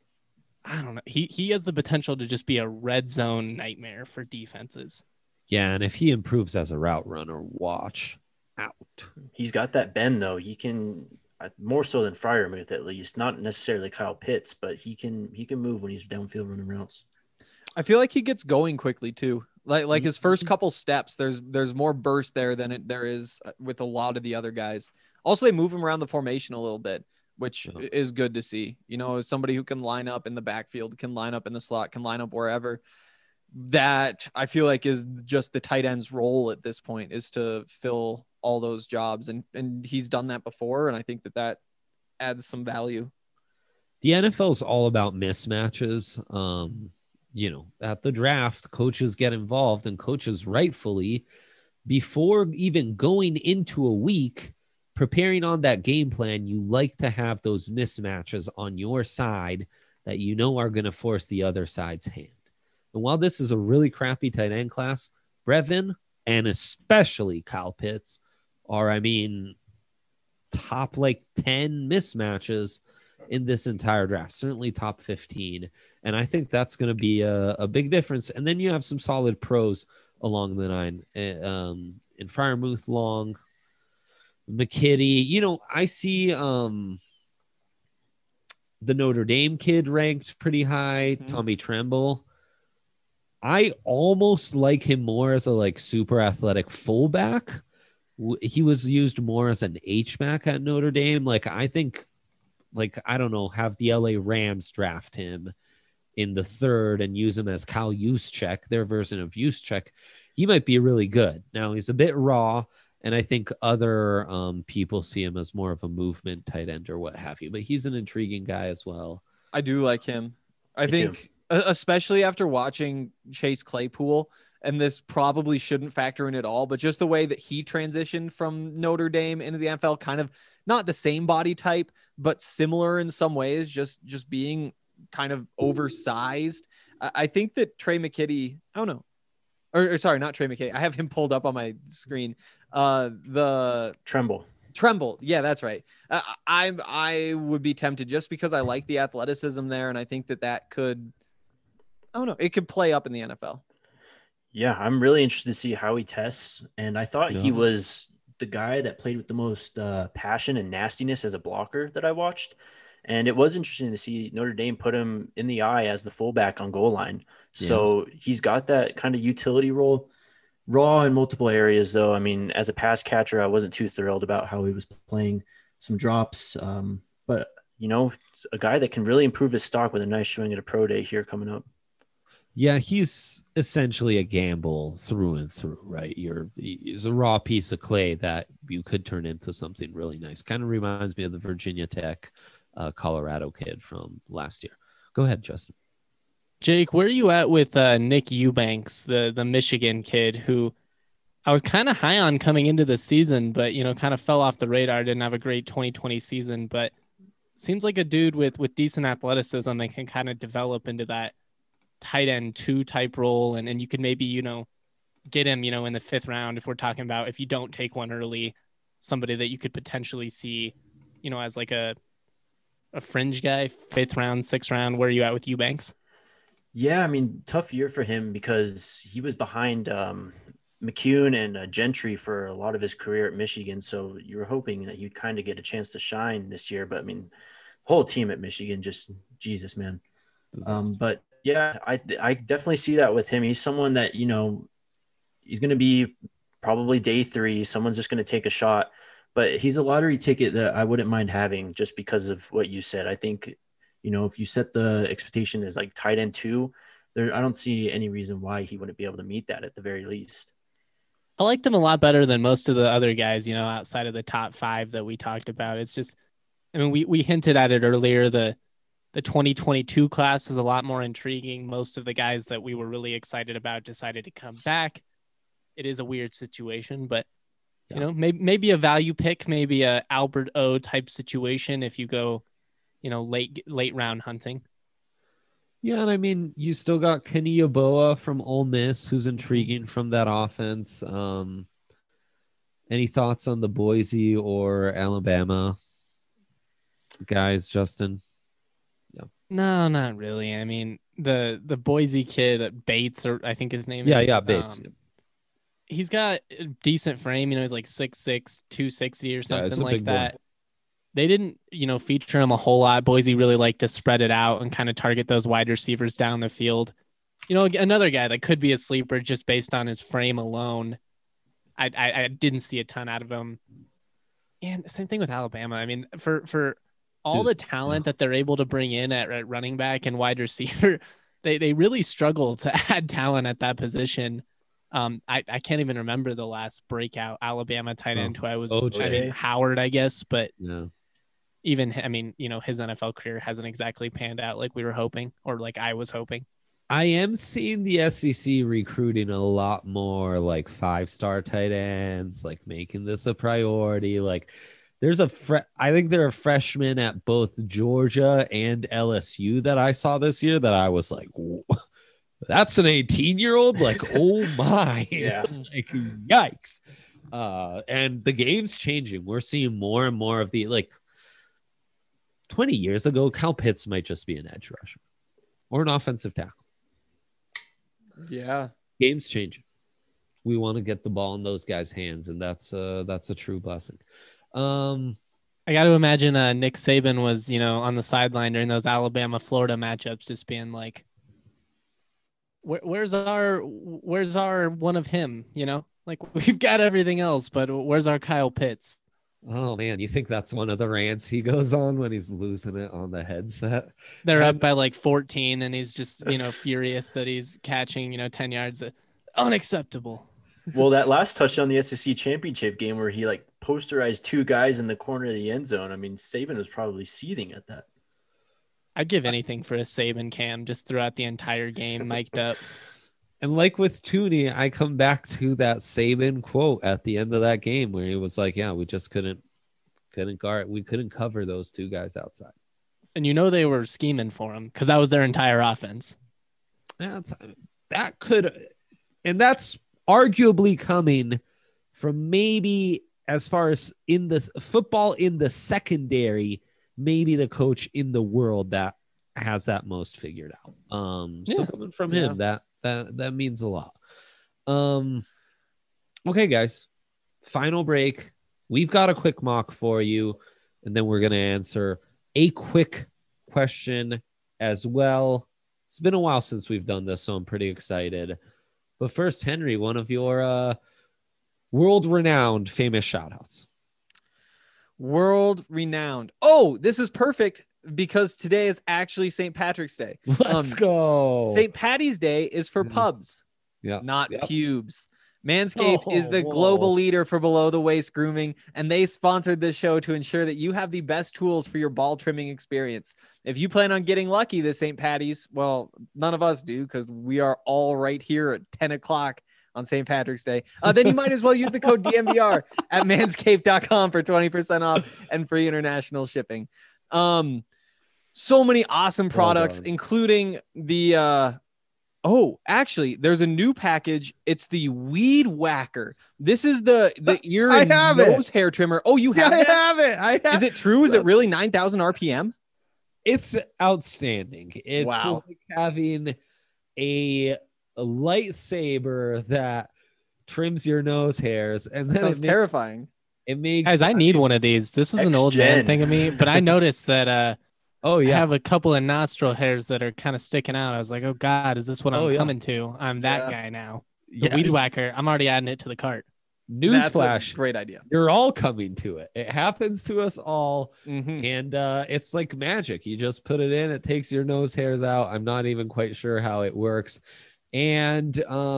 I don't know. He has the potential to just be a red zone nightmare for defenses. Yeah, and if he improves as a route runner, watch out. He's got that bend, though. He can more so than Freiermuth, at least. Not necessarily Kyle Pitts, but he can move when he's downfield running routes. I feel like he gets going quickly too. Like his first couple steps, there's more burst there than there is with a lot of the other guys. Also, they move him around the formation a little bit, which is good to see. Somebody who can line up in the backfield, can line up in the slot, can line up wherever. That I feel like is just the tight end's role at this point, is to fill all those jobs. And he's done that before. And I think that adds some value. The NFL is all about mismatches. At the draft, coaches get involved, and coaches rightfully, before even going into a week, preparing on that game plan, you like to have those mismatches on your side that are going to force the other side's hand. And while this is a really crappy tight end class, Brevin and especially Kyle Pitts are, top 10 mismatches in this entire draft, certainly top 15. And I think that's going to be a big difference. And then you have some solid pros along the line. In Freiermuth, Long, McKitty. I see the Notre Dame kid ranked pretty high, Tommy Tremble. I almost like him more as a super athletic fullback. He was used more as an H-back at Notre Dame. I think, I don't know, have the LA Rams draft him in the third and use him as Kyle Juszczyk, their version of Juszczyk. He might be really good. Now he's a bit raw, and I think other people see him as more of a movement tight end or what have you, but he's an intriguing guy as well. I do like him. I think, especially after watching Chase Claypool and this probably shouldn't factor in at all, but just the way that he transitioned from Notre Dame into the NFL, kind of not the same body type, but similar in some ways, just being kind of oversized. I think that Trey McKitty, I don't know, or sorry, not Trey McKitty. I have him pulled up on my screen. The Tremble. Yeah, that's right. I would be tempted just because I like the athleticism there. And I think that could, I don't know, it could play up in the NFL. Yeah, I'm really interested to see how he tests. And I thought he was the guy that played with the most passion and nastiness as a blocker that I watched. And it was interesting to see Notre Dame put him in the eye as the fullback on goal line. So he's got that kind of utility role. Raw in multiple areas, though. I mean, as a pass catcher, I wasn't too thrilled about how he was playing some drops. But, a guy that can really improve his stock with a nice showing at a pro day here coming up. Yeah, he's essentially a gamble through and through, right? He's a raw piece of clay that you could turn into something really nice. Kind of reminds me of the Virginia Tech, Colorado kid from last year. Go ahead, Justin. Jake, where are you at with Nick Eubanks, the Michigan kid who I was kind of high on coming into the season, but, kind of fell off the radar, didn't have a great 2020 season, but seems like a dude with decent athleticism that can kind of develop into that tight end 2 type role. And you could maybe, get him, in the 5th round if we're talking about, if you don't take one early, somebody that you could potentially see, as like a fringe guy, 5th round, 6th round. Where are you at with Eubanks? Yeah, I mean, tough year for him because he was behind McCune and Gentry for a lot of his career at Michigan. So you were hoping that you'd kind of get a chance to shine this year. But I mean, the whole team at Michigan, just Jesus, man. But yeah, I definitely see that with him. He's someone that, he's going to be probably day 3. Someone's just going to take a shot. But he's a lottery ticket that I wouldn't mind having just because of what you said. I think if you set the expectation as like tight end 2, I don't see any reason why he wouldn't be able to meet that at the very least. I liked him a lot better than most of the other guys, outside of the top 5 that we talked about. It's just, I mean, we hinted at it earlier. The 2022 class is a lot more intriguing. Most of the guys that we were really excited about decided to come back. It is a weird situation, but maybe a value pick, maybe a Albert O type situation if you go, late round hunting. Yeah, and I mean, you still got Kenny Yeboah from Ole Miss, who's intriguing from that offense. Any thoughts on the Boise or Alabama guys, Justin? Yeah. No, not really. I mean, the Boise kid, Bates, or I think his name is. Yeah, Bates. He's got a decent frame. He's like 6'6", 260 or something like that. Boy. They didn't, feature him a whole lot. Boise really liked to spread it out and kind of target those wide receivers down the field. Another guy that could be a sleeper just based on his frame alone. I didn't see a ton out of him. And same thing with Alabama. I mean, for all the talent that they're able to bring in at running back and wide receiver, they really struggle to add talent at that position. I can't even remember the last breakout Alabama tight end who I was Howard, I guess, but even, I mean, his NFL career hasn't exactly panned out like we were hoping, or like I was hoping. I am seeing the SEC recruiting a lot more like 5-star tight ends, like making this a priority. Like there's I think there are freshmen at both Georgia and LSU that I saw this year that I was like, whoa. That's an 18-year-old? Like, oh my. Yeah. Like, yikes. And the game's changing. We're seeing more and more of 20 years ago, Kyle Pitts might just be an edge rusher or an offensive tackle. Yeah. Game's changing. We want to get the ball in those guys' hands, and that's a true blessing. I got to imagine Nick Saban was, on the sideline during those Alabama-Florida matchups just being like, where's our one of him, like we've got everything else, but where's our Kyle Pitts? Oh man, you think that's one of the rants he goes on when he's losing it on the headset? They're up by like 14 and he's just, furious that he's catching, 10 yards. Unacceptable. Well, that last touchdown in the SEC championship game where he like posterized 2 guys in the corner of the end zone. I mean, Saban was probably seething at that. I'd give anything for a Saban cam just throughout the entire game, mic'd up. And like with Tooney, I come back to that Saban quote at the end of that game where he was like, yeah, we just couldn't guard. We couldn't cover those two guys outside. And you know they were scheming for him because that was their entire offense. That could, and that's arguably coming from maybe as far as in the football in the secondary, maybe the coach in the world that has that most figured out. So coming from him, that means a lot. Okay, guys, final break. We've got a quick mock for you, and then we're going to answer a quick question as well. It's been a while since we've done this, so I'm pretty excited. But first, Henry, one of your world-renowned famous shout-outs. World-renowned. Oh, this is perfect because today is actually St. Patrick's Day. Let's go. St. Patty's Day is for pubs, not pubes. Manscaped is the global leader for below the waist grooming, and they sponsored this show to ensure that you have the best tools for your ball trimming experience. If you plan on getting lucky this St. Patty's, well, none of us do because we are all right here at 10 o'clock on St. Patrick's Day. Then you might as well use the code DNVR at manscaped.com for 20% off and free international shipping. So many awesome products, including the actually, there's a new package. It's the Weed Whacker. This is the ear and nose hair trimmer. Oh, you have it? I have it. Is it true? Is it really 9,000 RPM? It's outstanding. It's like having a lightsaber that trims your nose hairs, and then sounds terrifying. It makes guys. I need one of these. This is an old man thing of me, but I noticed that. I have a couple of nostril hairs that are kind of sticking out. I was like, oh God, is this what I'm coming to? I'm that guy now. The Weed Whacker. I'm already adding it to the cart. Newsflash. Great idea. You're all coming to it. It happens to us all. And it's like magic. You just put it in, it takes your nose hairs out. I'm not even quite sure how it works. And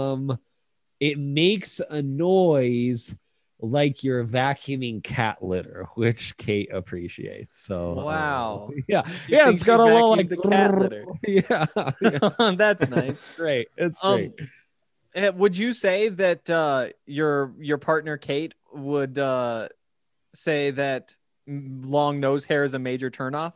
it makes a noise like you're vacuuming cat litter, which Kate appreciates. So wow. It's got a little like the cat litter. That's nice. Great. It's great. Would you say that your partner Kate would say that long nose hair is a major turnoff?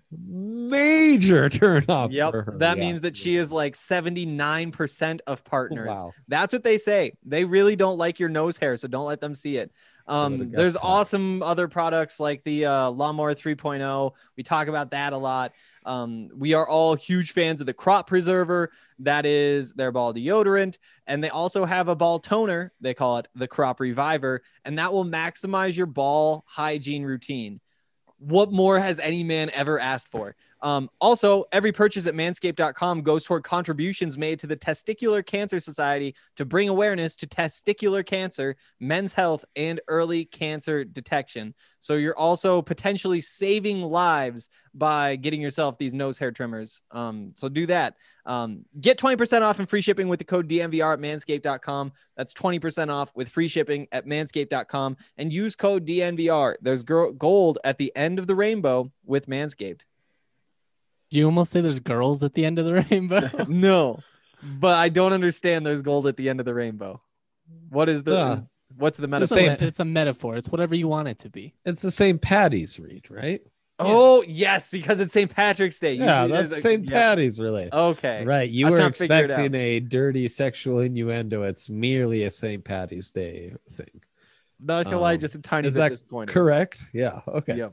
Major turnoff. Yep. For her. That means that she is like 79% of partners. Wow. That's what they say. They really don't like your nose hair, so don't let them see it. There's awesome other products like the Lawnmower 3.0. We talk about that a lot. We are all huge fans of the Crop Preserver. That is their ball deodorant. And they also have a ball toner. They call it the Crop Reviver. And that will maximize your ball hygiene routine. What more has any man ever asked for? Also, every purchase at manscaped.com goes toward contributions made to the Testicular Cancer Society to bring awareness to testicular cancer, men's health, and early cancer detection. So you're also potentially saving lives by getting yourself these nose hair trimmers. So do that. Get 20% off and free shipping with the code DNVR at manscaped.com. That's 20% off with free shipping at manscaped.com and use code DNVR. There's gold at the end of the rainbow with Manscaped. Do you almost say there's girls at the end of the rainbow? No, but I don't understand there's gold at the end of the rainbow. What is the what's the metaphor? It's a metaphor. It's whatever you want it to be. It's the St. Patty's read, right? Oh, yes, because it's St. Patrick's Day. Yeah, that's St. Patty's related. Okay. Right. You were expecting a dirty sexual innuendo. It's merely a St. Patty's Day thing. Not gonna lie, just a tiny bit disappointed. Correct? Yeah. Okay. Yep.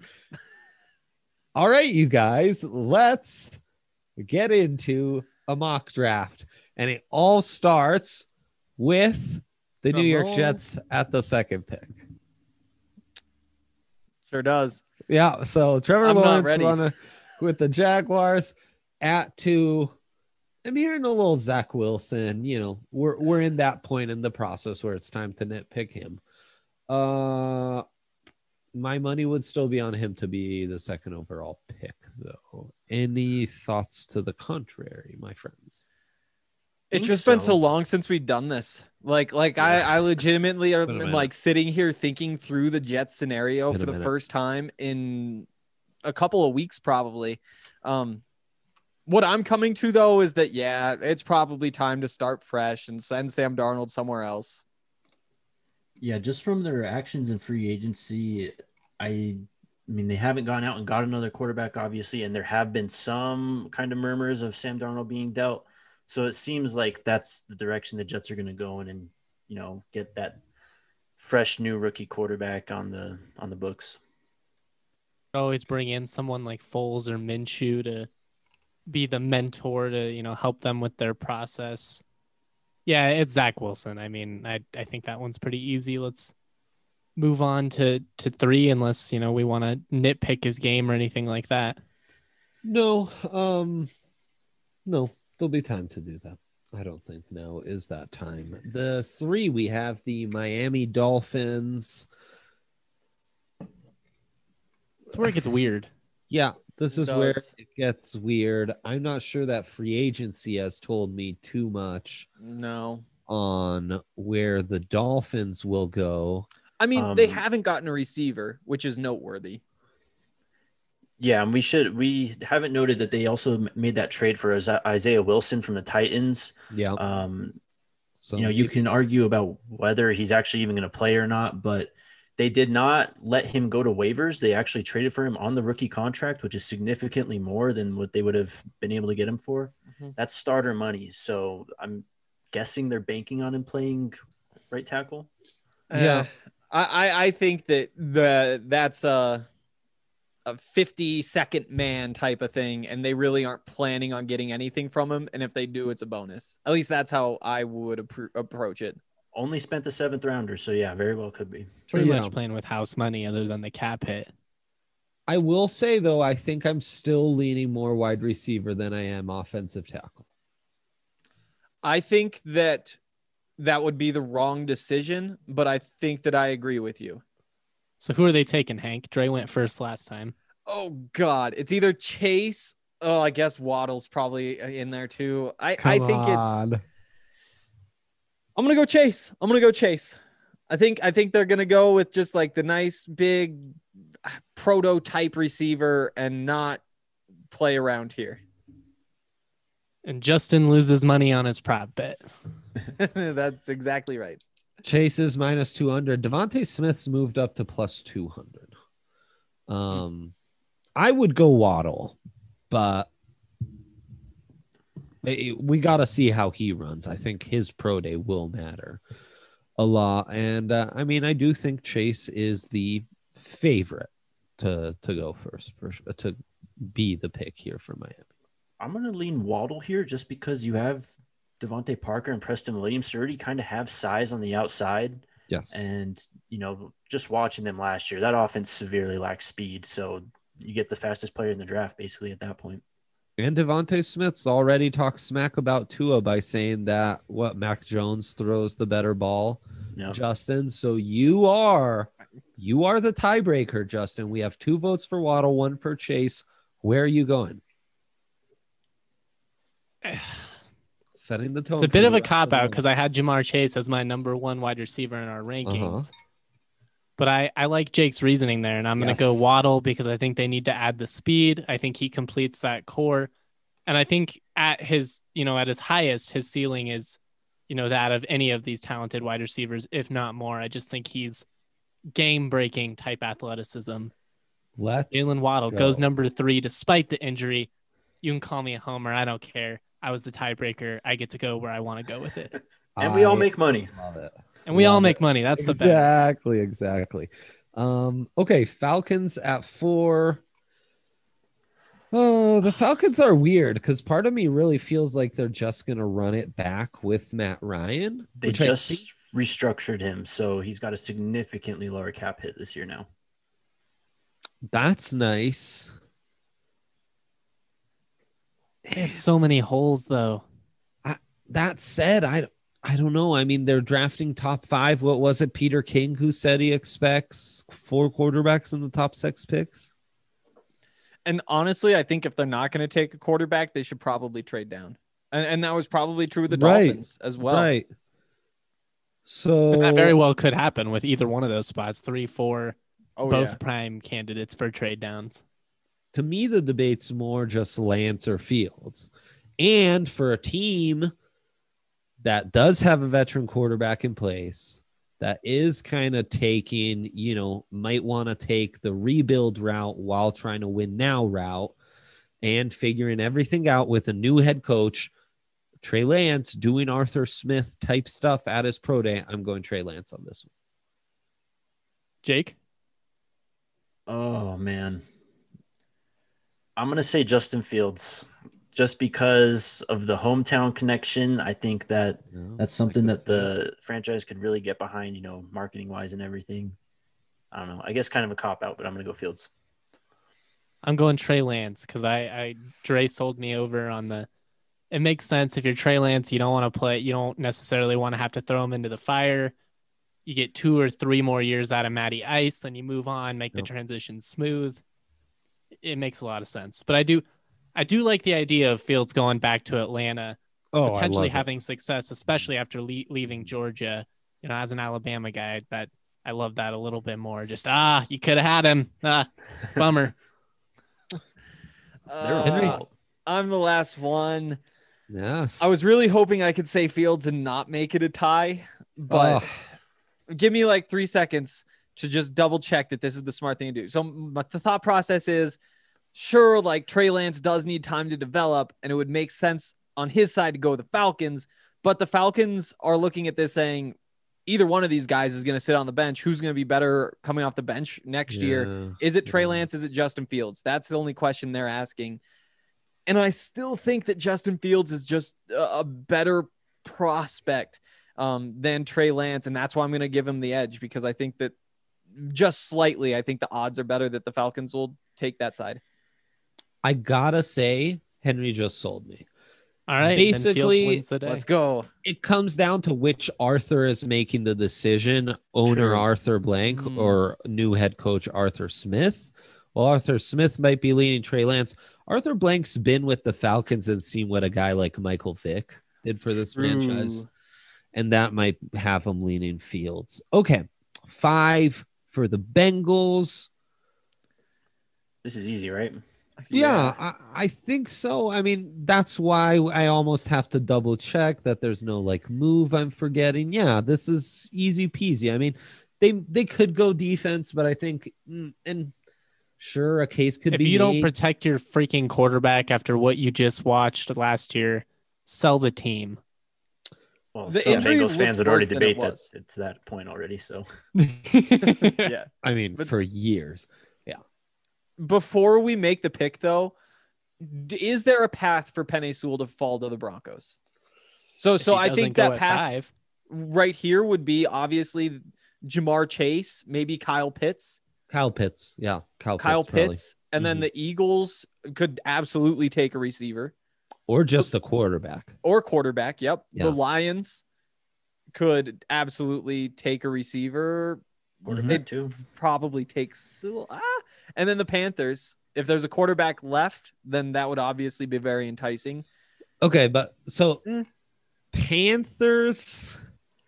All right, you guys, let's get into a mock draft. And it all starts with the New York Jets at the second pick. Sure does. Yeah, so Trevor Lawrence with the Jaguars at 2. I'm hearing a little Zach Wilson. You know, we're in that point in the process where it's time to nitpick him. My money would still be on him to be the second overall pick, though. Any thoughts to the contrary, my friends? It's just been so long since we've done this. I legitimately am like sitting here thinking through the Jets scenario for the first time in a couple of weeks, probably. What I'm coming to, though, is that, yeah, it's probably time to start fresh and send Sam Darnold somewhere else. Yeah, just from their actions in free agency, I mean, they haven't gone out and got another quarterback, obviously, and there have been some kind of murmurs of Sam Darnold being dealt. So it seems like that's the direction the Jets are going to go in and, get that fresh new rookie quarterback on the books. Always bring in someone like Foles or Minshew to be the mentor to, help them with their process. Yeah, it's Zach Wilson. I mean, I think that one's pretty easy. Let's move on to 3 unless, we want to nitpick his game or anything like that. No, no, there'll be time to do that. I don't think now is that time. The 3, we have the Miami Dolphins. That's where it gets weird. Yeah, this is where it gets weird. I'm not sure that free agency has told me too much. No. On where the Dolphins will go. I mean, they haven't gotten a receiver, which is noteworthy. Yeah, and we haven't noted that they also made that trade for Isaiah Wilson from the Titans. Yeah. So you can argue about whether he's actually even going to play or not, but they did not let him go to waivers. They actually traded for him on the rookie contract, which is significantly more than what they would have been able to get him for. Mm-hmm. That's starter money. So I'm guessing they're banking on him playing right tackle. Yeah. I think that's a 50-second man type of thing, and they really aren't planning on getting anything from him. And if they do, it's a bonus. At least that's how I would approach it. Only spent the 7th rounder, so yeah, very well could be. Pretty much playing with house money other than the cap hit. I will say, though, I think I'm still leaning more wide receiver than I am offensive tackle. I think that would be the wrong decision, but I think that I agree with you. So who are they taking, Hank? Dre went first last time. Oh, God. It's either Chase. Oh, I guess Waddle's probably in there, too. I think it's... I'm going to go Chase. I think they're going to go with just like the nice big prototype receiver and not play around here. And Justin loses money on his prop bet. That's exactly right. Chase is minus 200. Devontae Smith's moved up to plus 200. I would go Waddle, but we got to see how he runs. I think his pro day will matter a lot. And I mean, I do think Chase is the favorite to go first, to be the pick here for Miami. I'm going to lean Waddle here just because you have Devontae Parker and Preston Williams already kind of have size on the outside. Yes. And, just watching them last year, that offense severely lacks speed. So you get the fastest player in the draft basically at that point. And Devontae Smith's already talked smack about Tua by saying that Mac Jones throws the better ball, yep. Justin. So you are the tiebreaker, Justin. We have 2 votes for Waddle, 1 for Chase. Where are you going? Setting the tone. It's a bit of a cop-out because I had Jamar Chase as my number 1 wide receiver in our rankings. Uh-huh. But I like Jake's reasoning there, and I'm going to go Waddle because I think they need to add the speed. I think he completes that core. And I think at his highest, his ceiling is, that of any of these talented wide receivers, if not more. I just think he's game-breaking type athleticism. Jalen Waddle goes number 3 despite the injury. You can call me a homer. I don't care. I was the tiebreaker. I get to go where I want to go with it. And we all make money. Love it. And we all make money. That's the bet. Exactly. Okay, Falcons at 4. Oh, the Falcons are weird because part of me really feels like they're just going to run it back with Matt Ryan. They just restructured him, so he's got a significantly lower cap hit this year now. That's nice. They have so many holes, though. That said, I don't know. I mean, they're drafting top 5. What was it? Peter King who said he expects 4 quarterbacks in the top 6 picks. And honestly, I think if they're not going to take a quarterback, they should probably trade down. And that was probably true of the Dolphins as well. Right. So and that very well could happen with either one of those spots. 3, 4, both prime candidates for trade downs. to me, the debate's more just Lance or Fields. And for a team that does have a veteran quarterback in place, that is kind of taking, might want to take the rebuild route while trying to win now route and figuring everything out with a new head coach, Trey Lance, doing Arthur Smith type stuff at his pro day. I'm going Trey Lance on this one. Jake? Oh, man. I'm going to say Justin Fields. Just because of the hometown connection, I think that that's something that the franchise could really get behind, marketing wise and everything. I don't know. I guess kind of a cop out, but I'm going to go Fields. I'm going Trey Lance because Dre sold me over on it makes sense. If you're Trey Lance, you don't want to play. You don't necessarily want to have to throw him into the fire. You get 2 or 3 more years out of Matty Ice, and you move on, make the transition smooth. It makes a lot of sense. But I do like the idea of Fields going back to Atlanta, potentially having success, especially after leaving Georgia. As an Alabama guy, that I love that a little bit more. Just you could have had him. Bummer. I'm the last one. Yes. I was really hoping I could say Fields and not make it a tie, but give me like 3 seconds to just double check that this is the smart thing to do. So the thought process is, sure, like Trey Lance does need time to develop, and it would make sense on his side to go with the Falcons, but the Falcons are looking at this saying either one of these guys is going to sit on the bench. Who's going to be better coming off the bench next year? Is it Trey Lance? Is it Justin Fields? That's the only question they're asking. And I still think that Justin Fields is just a better prospect than Trey Lance. And that's why I'm going to give him the edge, because I think that just slightly, I think the odds are better that the Falcons will take that side. I gotta say, Henry just sold me. All right. Basically, let's go. It comes down to which Arthur is making the decision, owner Arthur Blank or new head coach Arthur Smith. Well, Arthur Smith might be leaning Trey Lance. Arthur Blank's been with the Falcons and seen what a guy like Michael Vick did for this franchise. And that might have him leaning Fields. Okay. 5 for the Bengals. This is easy, right? Yeah, I think so. I mean, that's why I almost have to double check that there's no move I'm forgetting. Yeah, this is easy peasy. I mean, they could go defense, but I think, and sure, a case could be if you don't protect your freaking quarterback after what you just watched last year, sell the team. Well, some Bengals fans would already debate that it's that point already. So, yeah, I mean, for years. Before we make the pick, though, is there a path for Penei Sewell to fall to the Broncos? So I think that path right here would be obviously Jamar Chase, maybe Kyle Pitts. Kyle Pitts. Kyle Pitts. And then the Eagles could absolutely take a receiver. Or just a quarterback. Yep. Yeah. The Lions could absolutely take a receiver. They'd probably take and then the Panthers, if there's a quarterback left, then that would obviously be very enticing. Okay, but so Panthers,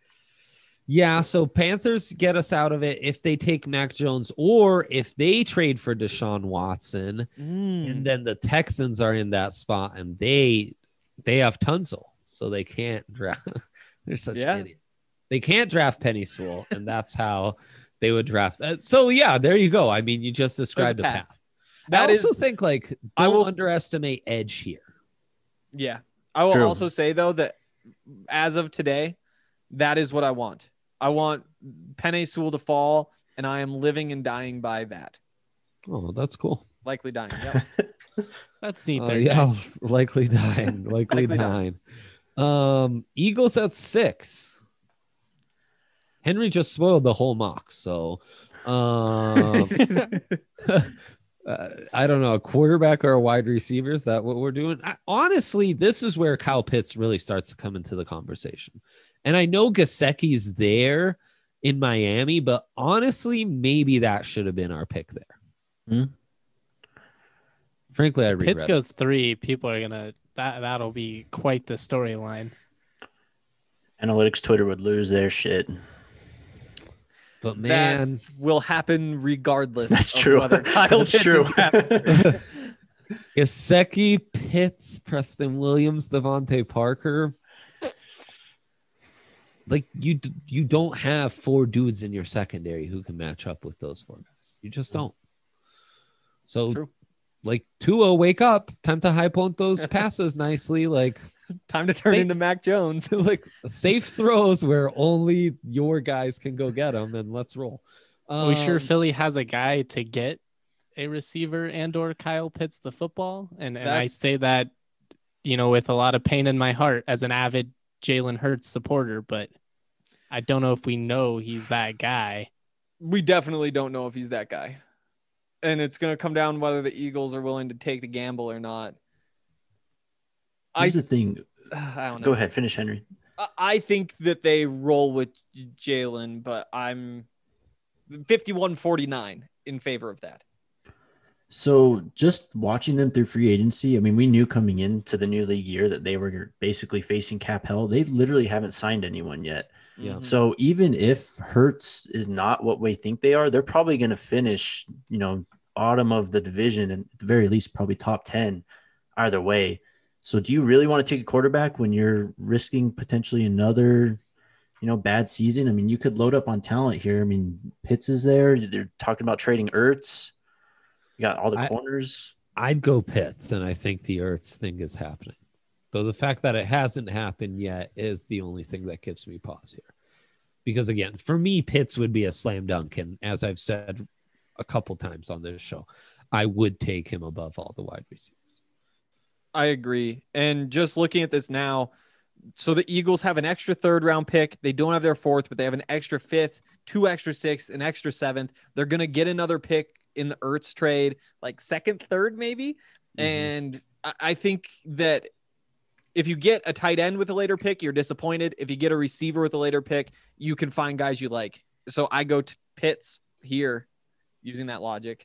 so Panthers get us out of it if they take Mac Jones or if they trade for Deshaun Watson, and then the Texans are in that spot and they have Tunsil, so they can't draft. They're such idiots. They can't draft Penei Sewell, and that's how they would draft. So, there you go. I mean, you just described a path. I also think, don't underestimate edge here. Yeah. I will also say, though, that as of today, that is what I want. I want Penei Sewell to fall, and I am living and dying by that. Oh, that's cool. Likely dying. Yep. That's neat. Likely dying. Likely dying. Eagles at 6. Henry just spoiled the whole mock, so I don't know, a quarterback or a wide receiver. Is that what we're doing? Honestly, this is where Kyle Pitts really starts to come into the conversation. And I know Gesicki's there in Miami, but honestly, maybe that should have been our pick there. Frankly, I regret Pitts goes 3. People are gonna that'll be quite the storyline. Analytics Twitter would lose their shit. But man, that will happen regardless. That's true. Whether Kyle Pitts is Gesicki, Pitts, Preston Williams, Devontae Parker. Like you don't have 4 dudes in your secondary who can match up with those 4 guys. You just don't. So True. Like Tua, wake up. Time to high point those passes nicely. Like time to turn into Mac Jones. Like safe throws where only your guys can go get them, and let's roll. Are we sure Philly has a guy to get a receiver and or Kyle Pitts the football? And I say that, with a lot of pain in my heart as an avid Jalen Hurts supporter, but I don't know if we know he's that guy. We definitely don't know if he's that guy. And it's going to come down whether the Eagles are willing to take the gamble or not. Here's the thing. I don't know. Go ahead, finish, Henry. I think that they roll with Jalen, but I'm 51-49 in favor of that. So just watching them through free agency, I mean, we knew coming into the new league year that they were basically facing cap hell. They literally haven't signed anyone yet. Yeah. So even if Hurts is not what we think they are, they're probably going to finish, bottom of the division and at the very least probably top 10 either way. So do you really want to take a quarterback when you're risking potentially another, bad season? I mean, you could load up on talent here. I mean, Pitts is there. They're talking about trading Ertz. You got all the corners. I'd go Pitts, and I think the Ertz thing is happening. Though the fact that it hasn't happened yet is the only thing that gives me pause here. Because, again, for me, Pitts would be a slam dunk. And as I've said a couple times on this show, I would take him above all the wide receivers. I agree. And just looking at this now, so the Eagles have an extra 3rd round pick. They don't have their 4th, but they have an extra 5th, 2 extra 6th, an extra 7th. They're going to get another pick in the Ertz trade, like 2nd, 3rd, maybe. Mm-hmm. And I think that if you get a tight end with a later pick, you're disappointed. If you get a receiver with a later pick, you can find guys you like. So I go to Pitts here using that logic.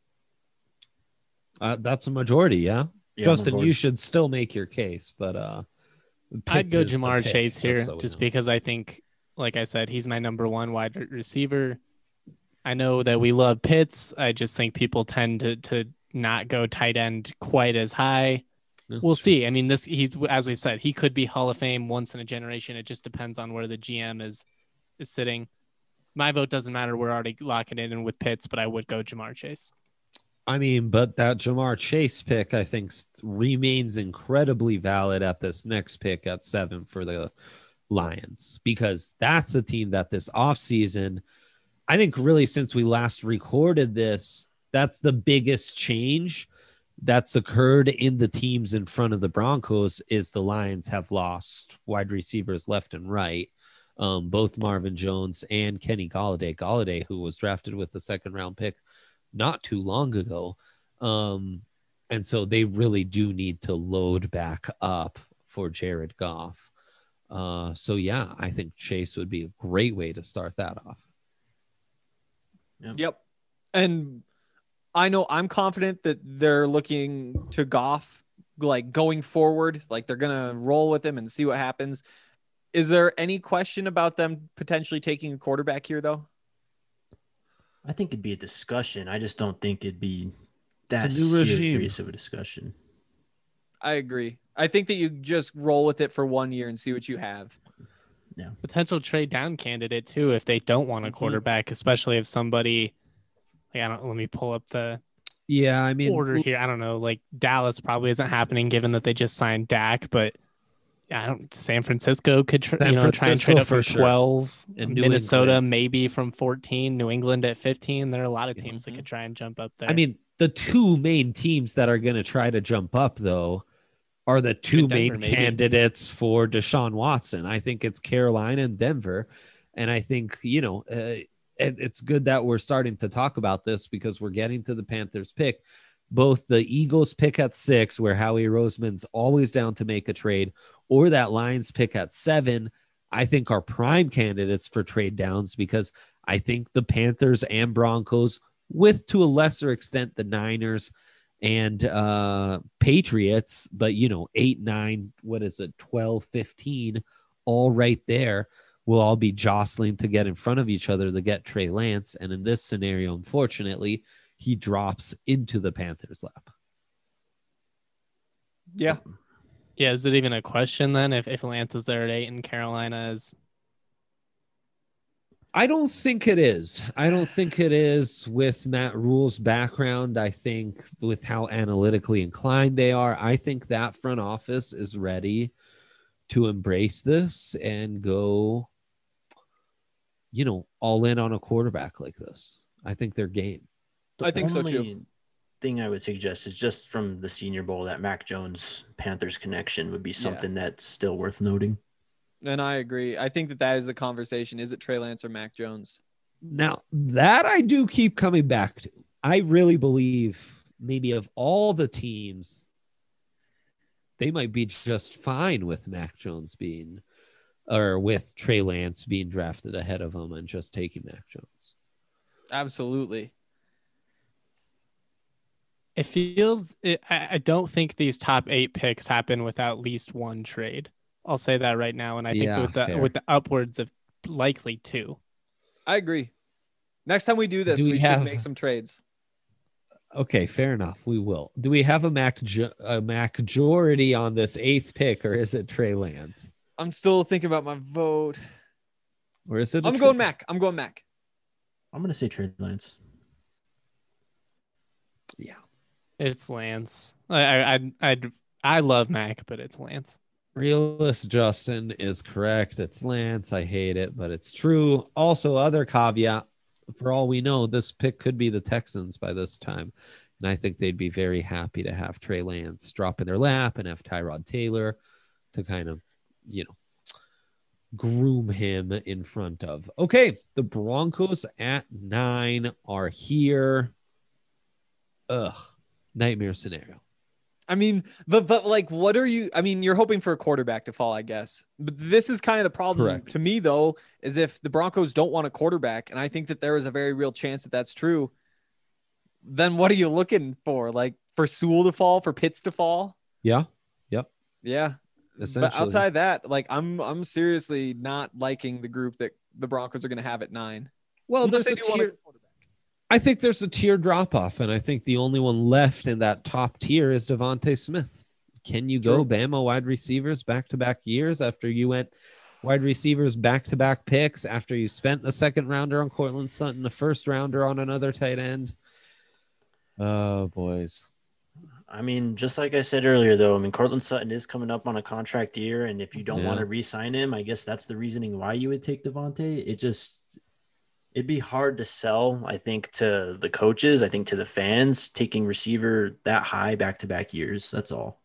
That's a majority, yeah? Justin, you should still make your case, but I'd go Jamar Chase here just because I think, like I said, he's my number 1 wide receiver. I know that we love Pitts. I just think people tend to not go tight end quite as high. We'll see. I mean, he's, as we said, he could be Hall of Fame once in a generation. It just depends on where the GM is sitting. My vote doesn't matter. We're already locking it in with Pitts, but I would go Jamar Chase. I mean, but that Jamar Chase pick, I think, remains incredibly valid at this next pick at 7 for the Lions, because that's a team that this offseason, I think really since we last recorded this, that's the biggest change that's occurred in the teams in front of the Broncos is the Lions have lost wide receivers left and right. Both Marvin Jones and Kenny Golladay, who was drafted with the 2nd round pick not too long ago. And so they really do need to load back up for Jared Goff. So yeah, I think Chase would be a great way to start that off. Yep. And I know I'm confident that they're looking to Goff, like going forward, like they're going to roll with him and see what happens. Is there any question about them potentially taking a quarterback here, though? I think it'd be a discussion. I just don't think it'd be that new serious of a discussion. I agree. I think that you just roll with it for 1 year and see what you have. Yeah. Potential trade down candidate too if they don't want a quarterback, especially if somebody let me pull up the order here. I don't know, like Dallas probably isn't happening given that they just signed Dak, but San Francisco could try and trade up from 12, and Minnesota maybe from 14, New England at 15. There are a lot of teams that could try and jump up there. I mean, the 2 main teams that are going to try to jump up though are the 2 main candidates for Deshaun Watson. I think it's Carolina and Denver. And I think, it's good that we're starting to talk about this because we're getting to the Panthers pick. Both the Eagles pick at 6, where Howie Roseman's always down to make a trade, or that Lions pick at 7, I think are prime candidates for trade downs because I think the Panthers and Broncos, with to a lesser extent the Niners and Patriots, but 8, 9, 12, 15, all right there, will all be jostling to get in front of each other to get Trey Lance. And in this scenario, unfortunately, he drops into the Panthers' lap. Yeah. Yeah, is it even a question then if Lance is there at 8 and Carolina is? I don't think it is. I don't think it is with Matt Rule's background. I think with how analytically inclined they are, I think that front office is ready to embrace this and go, all in on a quarterback like this. I think they're game. I think so too. Thing I would suggest is just from the Senior Bowl, that Mac Jones Panthers connection would be something that's still worth noting. And I agree. I think that is the conversation. Is it Trey Lance or Mac Jones? Now, that I do keep coming back to. I really believe maybe of all the teams, they might be just fine with Mac Jones with Trey Lance being drafted ahead of him and just taking Mac Jones. Absolutely. It feels I don't think these top 8 picks happen without at least one trade. I'll say that right now, and I think with the upwards of likely 2. I agree. Next time we do this, we should make some trades. Okay, fair enough. We will. Do we have a majority on this 8th pick, or is it Trey Lance? I'm still thinking about my vote. Or is it? I'm going Mac. I'm going to say Trey Lance. Yeah. It's Lance. I love Mac, but it's Lance. Realist Justin is correct. It's Lance. I hate it, but it's true. Also, other caveat, for all we know, this pick could be the Texans by this time. And I think they'd be very happy to have Trey Lance drop in their lap and have Tyrod Taylor to kind of, groom him in front of. Okay, the Broncos at 9 are here. Nightmare scenario. I mean, but like, what are you? I mean, you're hoping for a quarterback to fall, I guess. But this is kind of the problem. Correct. To me, though, is if the Broncos don't want a quarterback, and I think that there is a very real chance that that's true, then what are you looking for? Like for Sewell to fall, for Pitts to fall? Yeah. Yep. Yeah. But outside that, like I'm seriously not liking the group that the Broncos are going to have at 9. Well, there's a tier. I think there's a tier drop off, and I think the only one left in that top tier is Devontae Smith. Can you go Bama wide receivers back-to-back years after you went wide receivers back-to-back picks, after you spent a second rounder on Courtland Sutton, a first rounder on another tight end? Oh, boys. I mean, just like I said earlier, though, Courtland Sutton is coming up on a contract year, and if you don't want to re-sign him, I guess that's the reasoning why you would take Devontae. It'd be hard to sell, I think, to the coaches, I think to the fans, taking receiver that high back-to-back years. That's all.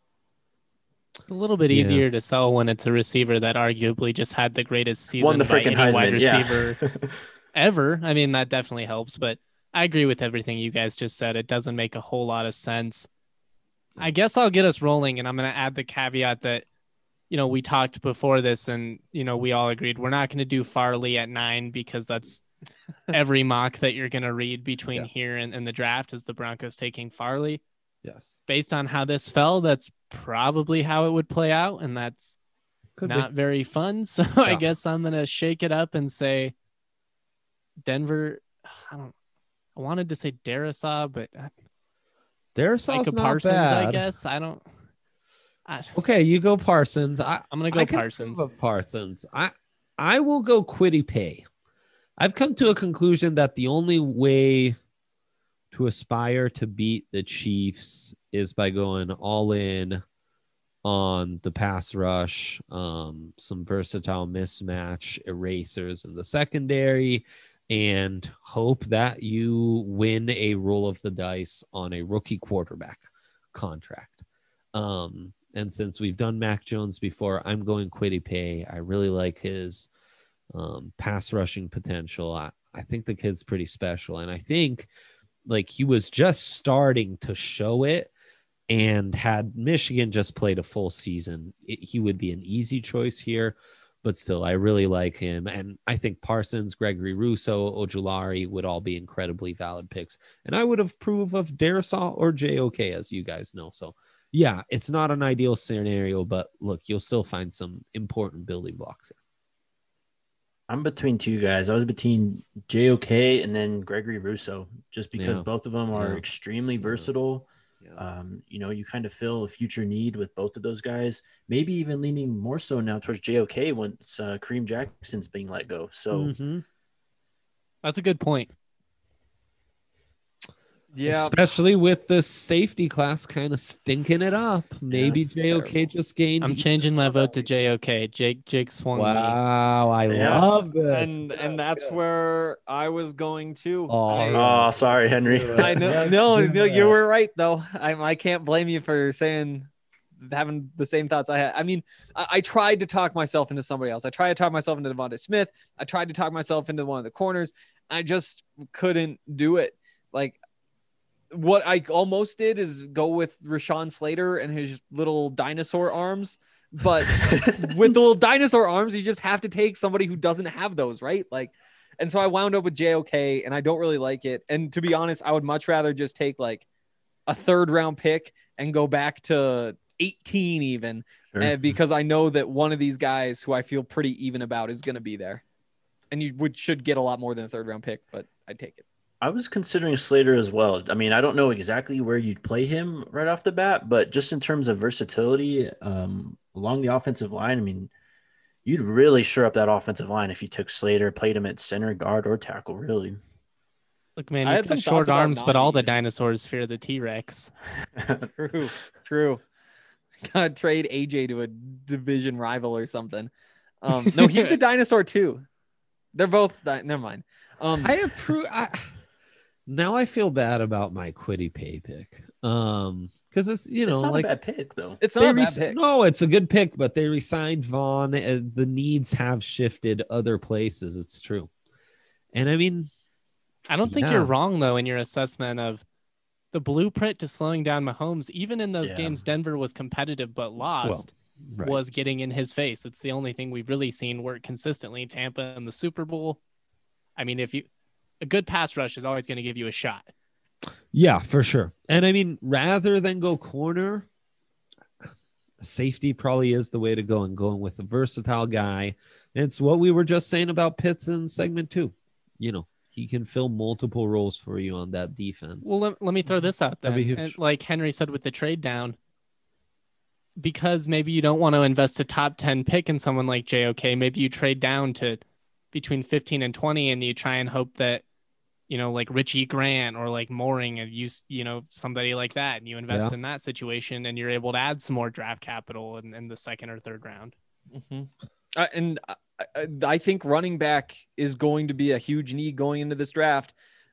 A little bit easier to sell when it's a receiver that arguably just had the greatest season won the by freaking any Heisman, wide receiver ever. I mean, that definitely helps, but I agree with everything you guys just said. It doesn't make a whole lot of sense. I guess I'll get us rolling, and I'm going to add the caveat that, we talked before this and, we all agreed we're not going to do Farley at 9 because that's every mock that you're going to read between here and the draft is the Broncos taking Farley. Yes. Based on how this fell, that's probably how it would play out, and that's not very fun. So I guess I'm going to shake it up and say Denver. I wanted to say Darisaw, but Darisaw's not Parsons, bad. I guess. Okay, you go Parsons. I'm going to go Parsons. Parsons. I will go Kwity Paye. I've come to a conclusion that the only way to aspire to beat the Chiefs is by going all in on the pass rush, some versatile mismatch erasers in the secondary, and hope that you win a roll of the dice on a rookie quarterback contract. And since we've done Mac Jones before, I'm going Kwity Paye. I really like his pass rushing potential. I think the kid's pretty special. And I think he was just starting to show it, and had Michigan just played a full season, he would be an easy choice here. But still, I really like him. And I think Parsons, Gregory Rousseau, Ojulari would all be incredibly valid picks. And I would approve of Darisaw or JOK, as you guys know. So, yeah, it's not an ideal scenario, but look, you'll still find some important building blocks here. I'm between two guys. I was between JOK and then Gregory Rousseau, just because both of them are extremely versatile. You kind of fill a future need with both of those guys, maybe even leaning more so now towards JOK once Kareem Jackson's being let go. So that's a good point. Yeah, especially with the safety class kind of stinking it up. Maybe JOK just gained. I'm changing my vote to JOK. Jake swung me. Wow, I love this. And that's where I was going to. Oh, sorry, Henry. I know. No, you were right though. I can't blame you for having the same thoughts I had. I mean, I tried to talk myself into somebody else. I tried to talk myself into Devontae Smith. I tried to talk myself into one of the corners. I just couldn't do it. Like, what I almost did is go with Rashawn Slater and his little dinosaur arms. But with the little dinosaur arms, you just have to take somebody who doesn't have those, right? Like, and so I wound up with JOK, and I don't really like it. And to be honest, I would much rather just take like a 3rd round pick and go back to 18 even, because I know that one of these guys who I feel pretty even about is going to be there. And you should get a lot more than a 3rd round pick, but I'd take it. I was considering Slater as well. I mean, I don't know exactly where you'd play him right off the bat, but just in terms of versatility along the offensive line, I mean, you'd really shore up that offensive line if you took Slater, played him at center, guard, or tackle, really. Look, man, he's got short arms, but all the dinosaurs fear the T-Rex. True. Gotta trade AJ to a division rival or something. No, he's the dinosaur too. They're both. Never mind. I approve. Now I feel bad about my Kwity Paye pick. Because it's it's not a bad pick though. It's not a bad pick. No, it's a good pick, but they re-signed Vaughn, and the needs have shifted other places. It's true, and I mean, I don't think you're wrong though in your assessment of the blueprint to slowing down Mahomes. Even in those games, Denver was competitive but lost. Was getting in his face. It's the only thing we've really seen work consistently. Tampa in the Super Bowl. I mean, a good pass rush is always going to give you a shot. Yeah, for sure. And I mean, rather than go corner, safety probably is the way to go, and going with a versatile guy. It's what we were just saying about Pitts in segment 2. He can fill multiple roles for you on that defense. Well, let me throw this out there. And like Henry said with the trade down, because maybe you don't want to invest a top 10 pick in someone like JOK, maybe you trade down to between 15 and 20 and you try and hope that, like Richie Grant or like Mooring and use, somebody like that, and you invest in that situation and you're able to add some more draft capital in the 2nd or 3rd round. And I think running back is going to be a huge need going into this draft.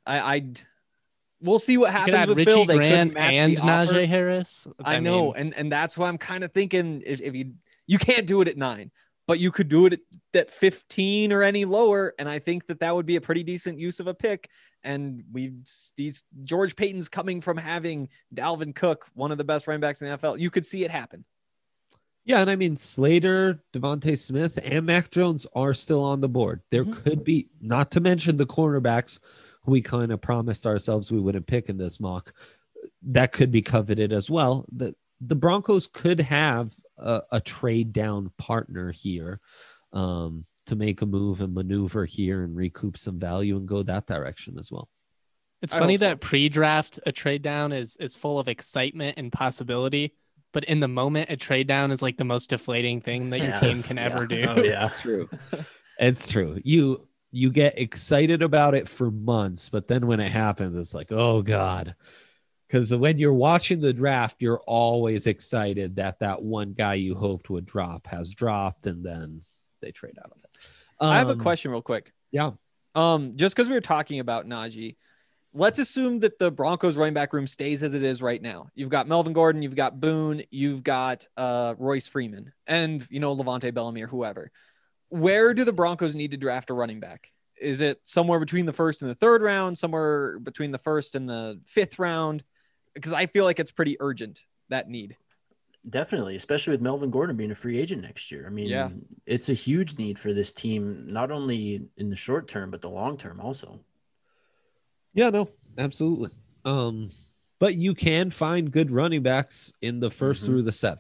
We'll see what happens with Richie Phil. Grant they couldn't match and the offer. Najee Harris. I know, and that's why I'm kind of thinking if you can't do it at 9, but you could do it at 15 or any lower, and I think that would be a pretty decent use of a pick. And George Payton's coming from having Dalvin Cook, one of the best running backs in the NFL. You could see it happen. Yeah, and I mean, Slater, Devontae Smith, and Mac Jones are still on the board. There could be, not to mention the cornerbacks who we kind of promised ourselves we wouldn't pick in this mock, that could be coveted as well. The Broncos could have a trade down partner here to make a move and maneuver here and recoup some value and go that direction as well. It's funny that pre-draft a trade down is full of excitement and possibility, but in the moment a trade down is like the most deflating thing that your team can ever do. Oh, yeah. It's true. It's true. You get excited about it for months, but then when it happens, it's like, oh God. Because when you're watching the draft, you're always excited that one guy you hoped would drop has dropped, and then they trade out of it. I have a question real quick. Yeah. Just because we were talking about Najee, let's assume that the Broncos running back room stays as it is right now. You've got Melvin Gordon, you've got Boone, you've got Royce Freeman, and Levante Bellamy or whoever. Where do the Broncos need to draft a running back? Is it somewhere between the 1st and the 3rd round, somewhere between the 1st and the 5th round? Because I feel like it's pretty urgent, that need. Definitely, especially with Melvin Gordon being a free agent next year. I mean, It's a huge need for this team, not only in the short term, but the long term also. Yeah, no, absolutely. But you can find good running backs in the 1st through the 7th.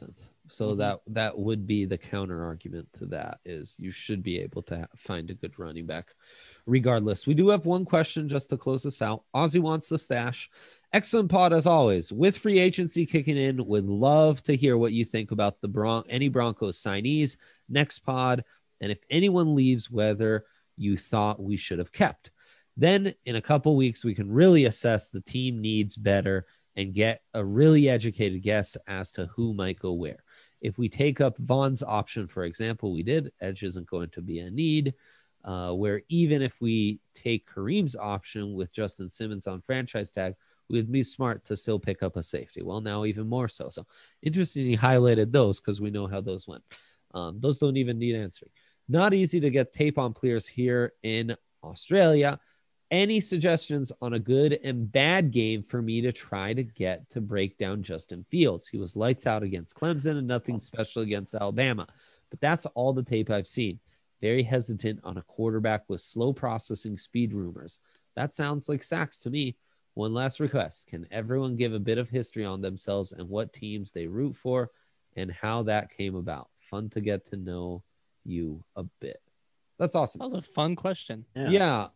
So that would be the counter argument to that, is you should be able to find a good running back regardless. We do have one question just to close us out. Ozzy wants the stash. Excellent pod as always. With free agency kicking in, would love to hear what you think about any Broncos signees next pod, and if anyone leaves, whether you thought we should have kept. Then in a couple weeks, we can really assess the team needs better and get a really educated guess as to who might go where. If we take up Vaughn's option, for example, we did, edge isn't going to be a need, where even if we take Kareem's option with Justin Simmons on franchise tag, we'd be smart to still pick up a safety. Well, now even more so. So interesting he highlighted those because we know how those went. Those don't even need answering. Not easy to get tape on players here in Australia. Any suggestions on a good and bad game for me to try to get to break down Justin Fields? He was lights out against Clemson and nothing special against Alabama. But that's all the tape I've seen. Very hesitant on a quarterback with slow processing speed rumors. That sounds like sacks to me. One last request. Can everyone give a bit of history on themselves and what teams they root for and how that came about? Fun to get to know you a bit. That's awesome. That was a fun question. Yeah.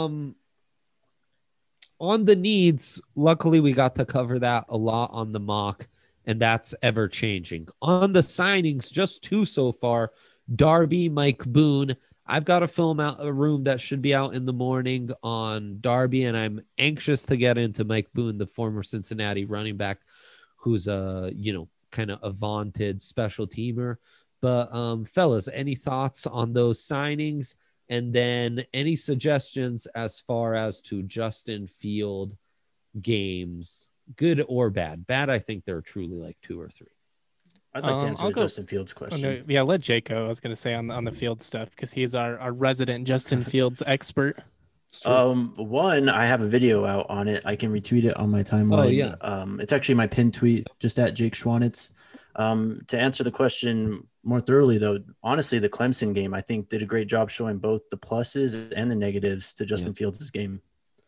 On the needs, luckily we got to cover that a lot on the mock, and that's ever changing. On the signings, just two so far. Darby, Mike Boone. I've got to film out a room that should be out in the morning on Darby, and I'm anxious to get into Mike Boone, the former Cincinnati running back, who's kind of a vaunted special teamer. But fellas, any thoughts on those signings? And then any suggestions as far as to Justin Field games, good or bad? Bad, I think there are truly like 2 or 3. I'd like to answer the Justin Fields question. Oh, no, yeah, let Jake go. I was going to say on the Field stuff because he's our resident Justin Fields expert. One, I have a video out on it. I can retweet it on my timeline. Oh, yeah. It's actually my pinned tweet, just at Jake Schwanitz. To answer the question more thoroughly, though, honestly, the Clemson game, I think, did a great job showing both the pluses and the negatives to Justin Fields' game.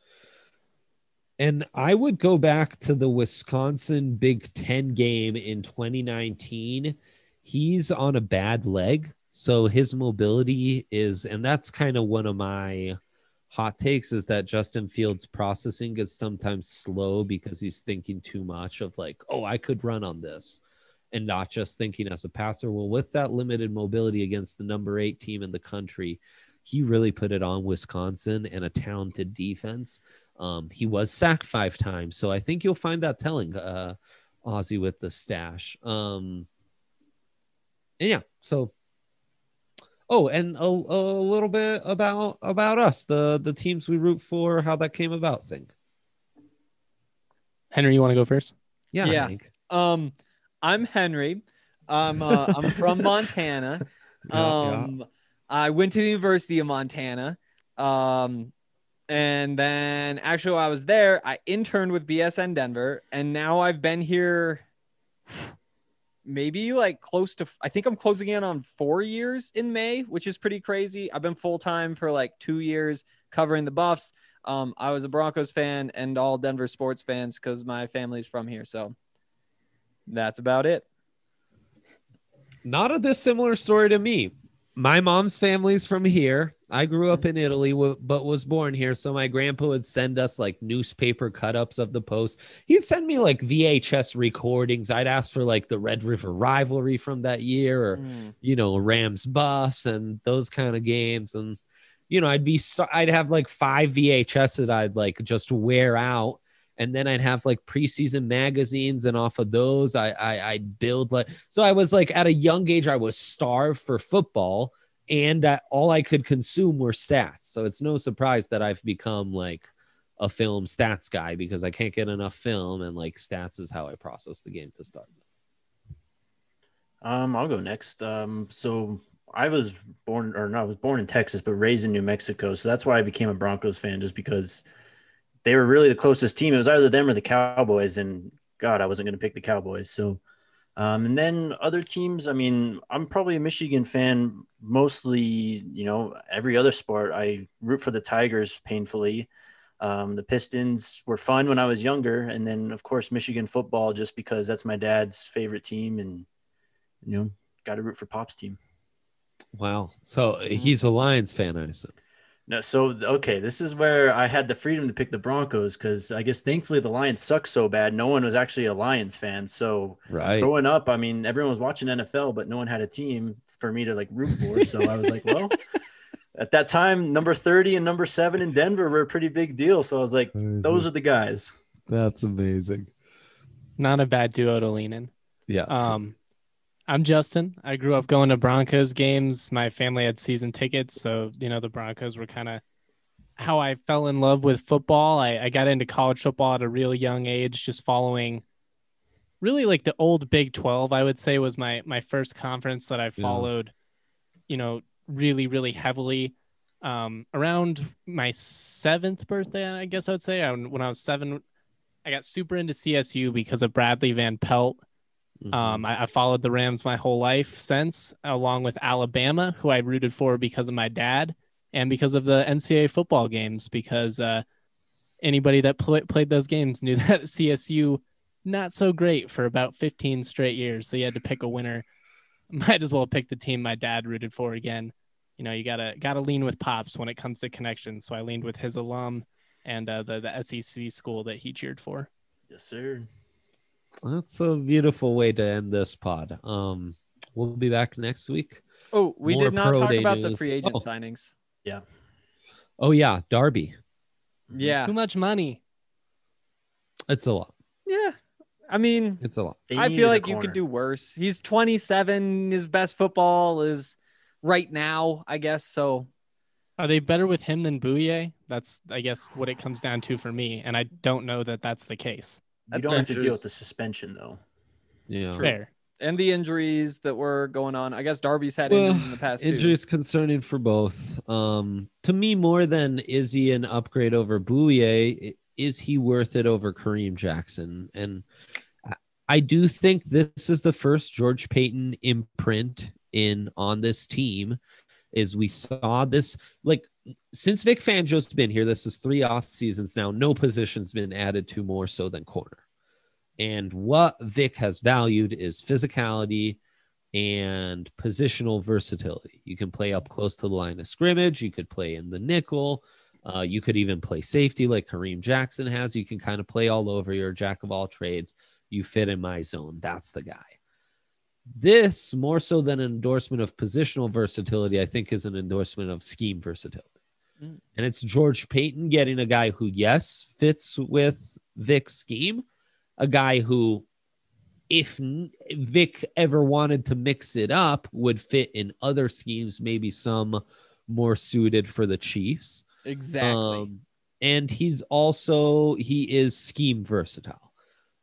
And I would go back to the Wisconsin Big Ten game in 2019. He's on a bad leg, so his mobility is, and that's kind of one of my hot takes, is that Justin Fields' processing is sometimes slow because he's thinking too much of like, oh, I could run on this, and not just thinking as a passer. Well, with that limited mobility against the number 8 team in the country, he really put it on Wisconsin and a talented defense. He was sacked 5 times, so I think you'll find that telling, Ozzy, with the stash. And yeah, so. Oh, and a little bit about us, the teams we root for, how that came about thing. Henry, you want to go first? Yeah. Hank. I'm Henry. I'm from Montana. I went to the University of Montana. And then actually while I was there, I interned with BSN Denver, and now I've been here maybe like close to, I think I'm closing in on 4 years in May, which is pretty crazy. I've been full-time for like 2 years covering the Buffs. I was a Broncos fan and all Denver sports fans because my family's from here. So that's about it. Not a dissimilar story to me. My mom's family's from here. I grew up in Italy, but was born here. So my grandpa would send us like newspaper cut-ups of the Post. He'd send me like VHS recordings. I'd ask for like the Red River rivalry from that year, or Rams Buffs and those kind of games. And I'd have like 5 VHS that I'd like just wear out. And then I'd have like preseason magazines, and off of those, I'd build so I was like at a young age, I was starved for football, and that all I could consume were stats. So it's no surprise that I've become like a film stats guy because I can't get enough film, and like stats is how I process the game to start with. I'll go next. So I was born in Texas, but raised in New Mexico. So that's why I became a Broncos fan, just because they were really the closest team. It was either them or the Cowboys, and God, I wasn't going to pick the Cowboys. So, and then other teams, I mean, I'm probably a Michigan fan, mostly, every other sport. I root for the Tigers painfully. The Pistons were fun when I was younger. And then of course, Michigan football, just because that's my dad's favorite team. And got to root for Pop's team. Wow. So he's a Lions fan, I assume. No, so okay, this is where I had the freedom to pick the Broncos because I guess thankfully the Lions suck so bad. No one was actually a Lions fan. So growing up, I mean, everyone was watching NFL, but no one had a team for me to like root for. So I was like, well, at that time, number 30 and number 7 in Denver were a pretty big deal. So I was like, those are the guys. That's amazing. Not a bad duo to lean in. Yeah. I'm Justin. I grew up going to Broncos games. My family had season tickets. So, the Broncos were kind of how I fell in love with football. I got into college football at a real young age, just following really like the old Big 12, I would say was my first conference that I followed, really, really heavily. Around my 7th birthday, I guess I would say, when I was 7, I got super into CSU because of Bradley Van Pelt. I followed the Rams my whole life since, along with Alabama, who I rooted for because of my dad and because of the NCAA football games, because anybody that played those games knew that CSU, not so great for about 15 straight years. So you had to pick a winner. Might as well pick the team my dad rooted for again. You gotta lean with Pops when it comes to connections. So I leaned with his alum and the SEC school that he cheered for. Yes, sir. That's a beautiful way to end this pod. We'll be back next week. Oh, we did not talk about the free agent signings. Yeah. Oh, yeah. Darby. Yeah. Too much money. It's a lot. Yeah. I mean, it's a lot. I feel like you could do worse. He's 27. His best football is right now, I guess. So are they better with him than Bouye? That's, I guess, what it comes down to for me. And I don't know that that's the case. You don't have to deal with the suspension, though. Yeah. Fair. And the injuries that were going on. I guess Darby's had injuries in the past, injuries concerning for both. To me, more than is he an upgrade over Bouye, is he worth it over Kareem Jackson? And I do think this is the first George Payton imprint on this team. Is we saw this, like, since Vic Fangio's been here, this is 3 off seasons now, no position's been added to more so than corner. And what Vic has valued is physicality and positional versatility. You can play up close to the line of scrimmage. You could play in the nickel. You could even play safety like Kareem Jackson has. You can kind of play all over. You're a jack of all trades. You fit in my zone. That's the guy. This, more so than an endorsement of positional versatility, I think is an endorsement of scheme versatility. And it's George Payton getting a guy who, yes, fits with Vic's scheme, a guy who, if Vic ever wanted to mix it up, would fit in other schemes, maybe some more suited for the Chiefs. Exactly. And he is scheme versatile.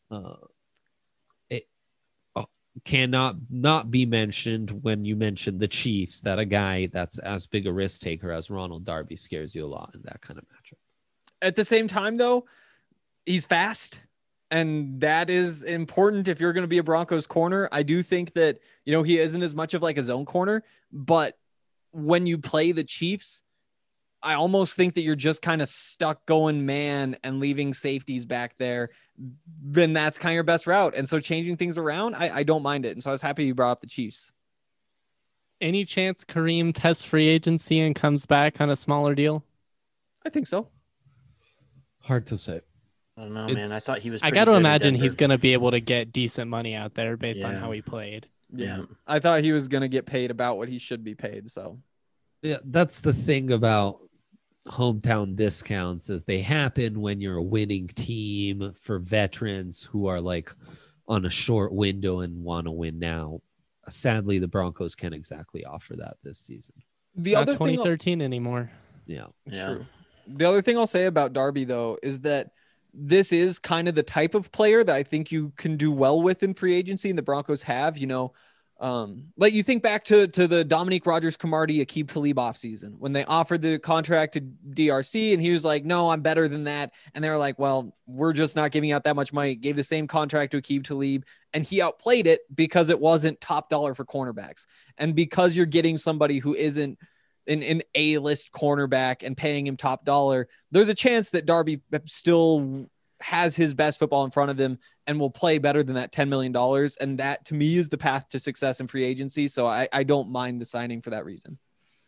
Cannot not be mentioned when you mention the Chiefs that a guy that's as big a risk taker as Ronald Darby scares you a lot in that kind of matchup. At the same time, though, he's fast, and that is important if you're going to be a Broncos corner. I do think that, he isn't as much of like a zone corner, but when you play the Chiefs, I almost think that you're just kind of stuck going man and leaving safeties back there. Then that's kind of your best route. And so changing things around, I don't mind it. And so I was happy you brought up the Chiefs. Any chance Kareem tests free agency and comes back on a smaller deal? I think so. Hard to say. I don't know, man. I thought he was. I got to imagine he's going to be able to get decent money out there based on how he played. Yeah. I thought he was going to get paid about what he should be paid. So, yeah, that's the thing about hometown discounts, is they happen when you're a winning team for veterans who are like on a short window and want to win now. Sadly, the Broncos can't exactly offer that this season. The other 2013 anymore. Yeah, true. The other thing I'll say about Darby, though, is that this is kind of the type of player that I think you can do well with in free agency, and the Broncos have, like you think back to the Dominique Rodgers-Cromartie, Aqib Talib offseason when they offered the contract to DRC and he was like, no, I'm better than that. And they were like, well, we're just not giving out that much money. Gave the same contract to Aqib Talib and he outplayed it because it wasn't top dollar for cornerbacks. And because you're getting somebody who isn't an A-list cornerback and paying him top dollar, there's a chance that Darby still has his best football in front of him and will play better than that $10 million. And that to me is the path to success in free agency. So I don't mind the signing for that reason.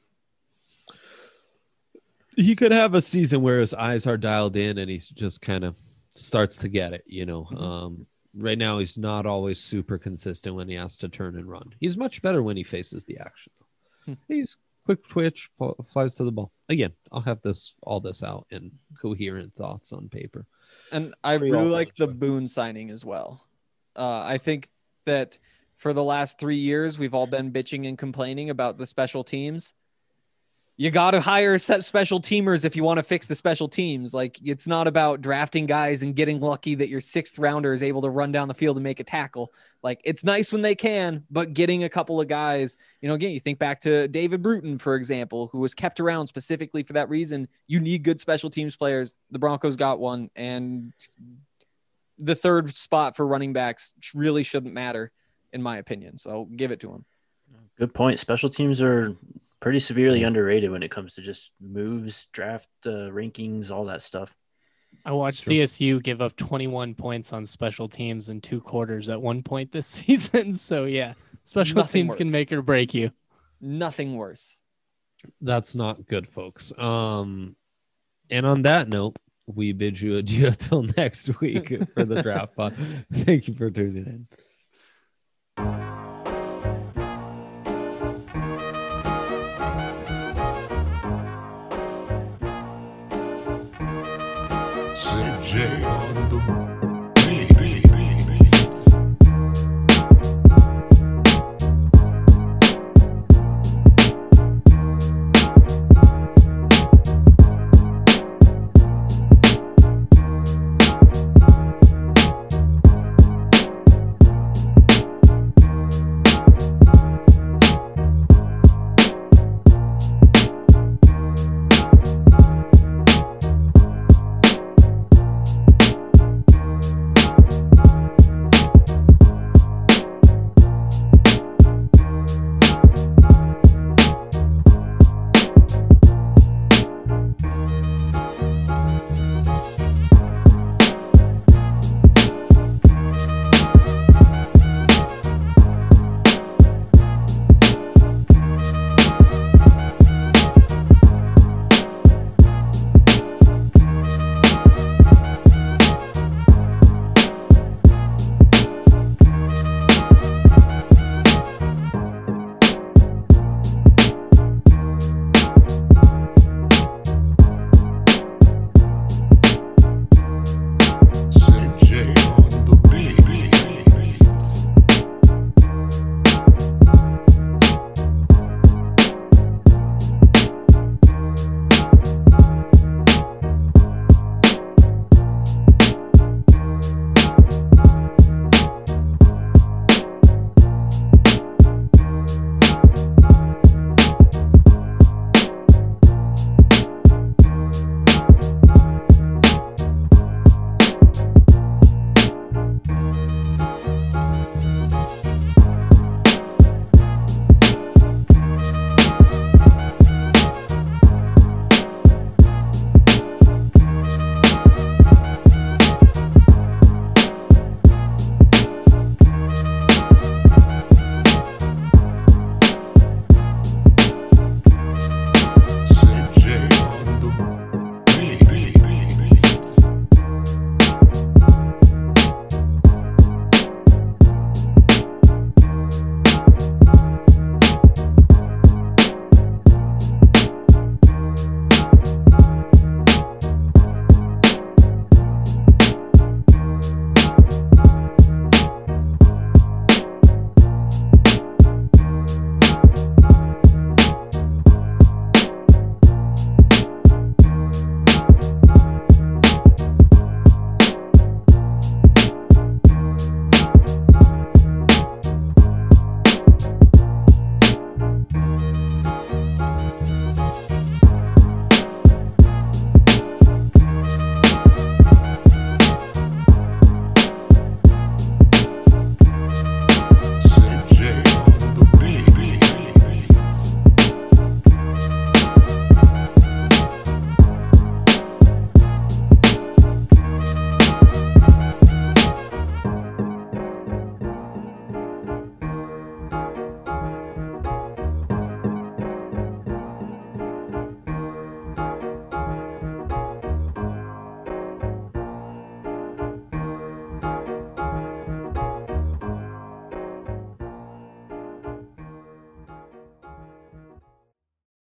He could have a season where his eyes are dialed in and he's just kind of starts to get it, you know. Right now he's not always super consistent when he has to turn and run. He's much better when he faces the action. He's quick twitch, flies to the ball. Again, I'll have all this out in coherent thoughts on paper. And I really like the Boone signing as well. I think that for the last 3 years, we've all been bitching and complaining about the special teams. You got to hire special teamers if you want to fix the special teams. Like, it's not about drafting guys and getting lucky that your 6th rounder is able to run down the field and make a tackle. Like, it's nice when they can, but getting a couple of guys, you know, again, you think back to David Bruton, for example, who was kept around specifically for that reason. You need good special teams players. The Broncos got one, and the 3rd spot for running backs really shouldn't matter, in my opinion. So give it to him. Good point. Special teams are pretty severely underrated when it comes to just moves, draft rankings, all that stuff. I watched CSU give up 21 points on special teams in 2 quarters at one point this season. So yeah, special teams can make or break you. Nothing worse. That's not good, folks. And on that note, we bid you adieu until next week for the draft pod. Thank you for tuning in. CJ on the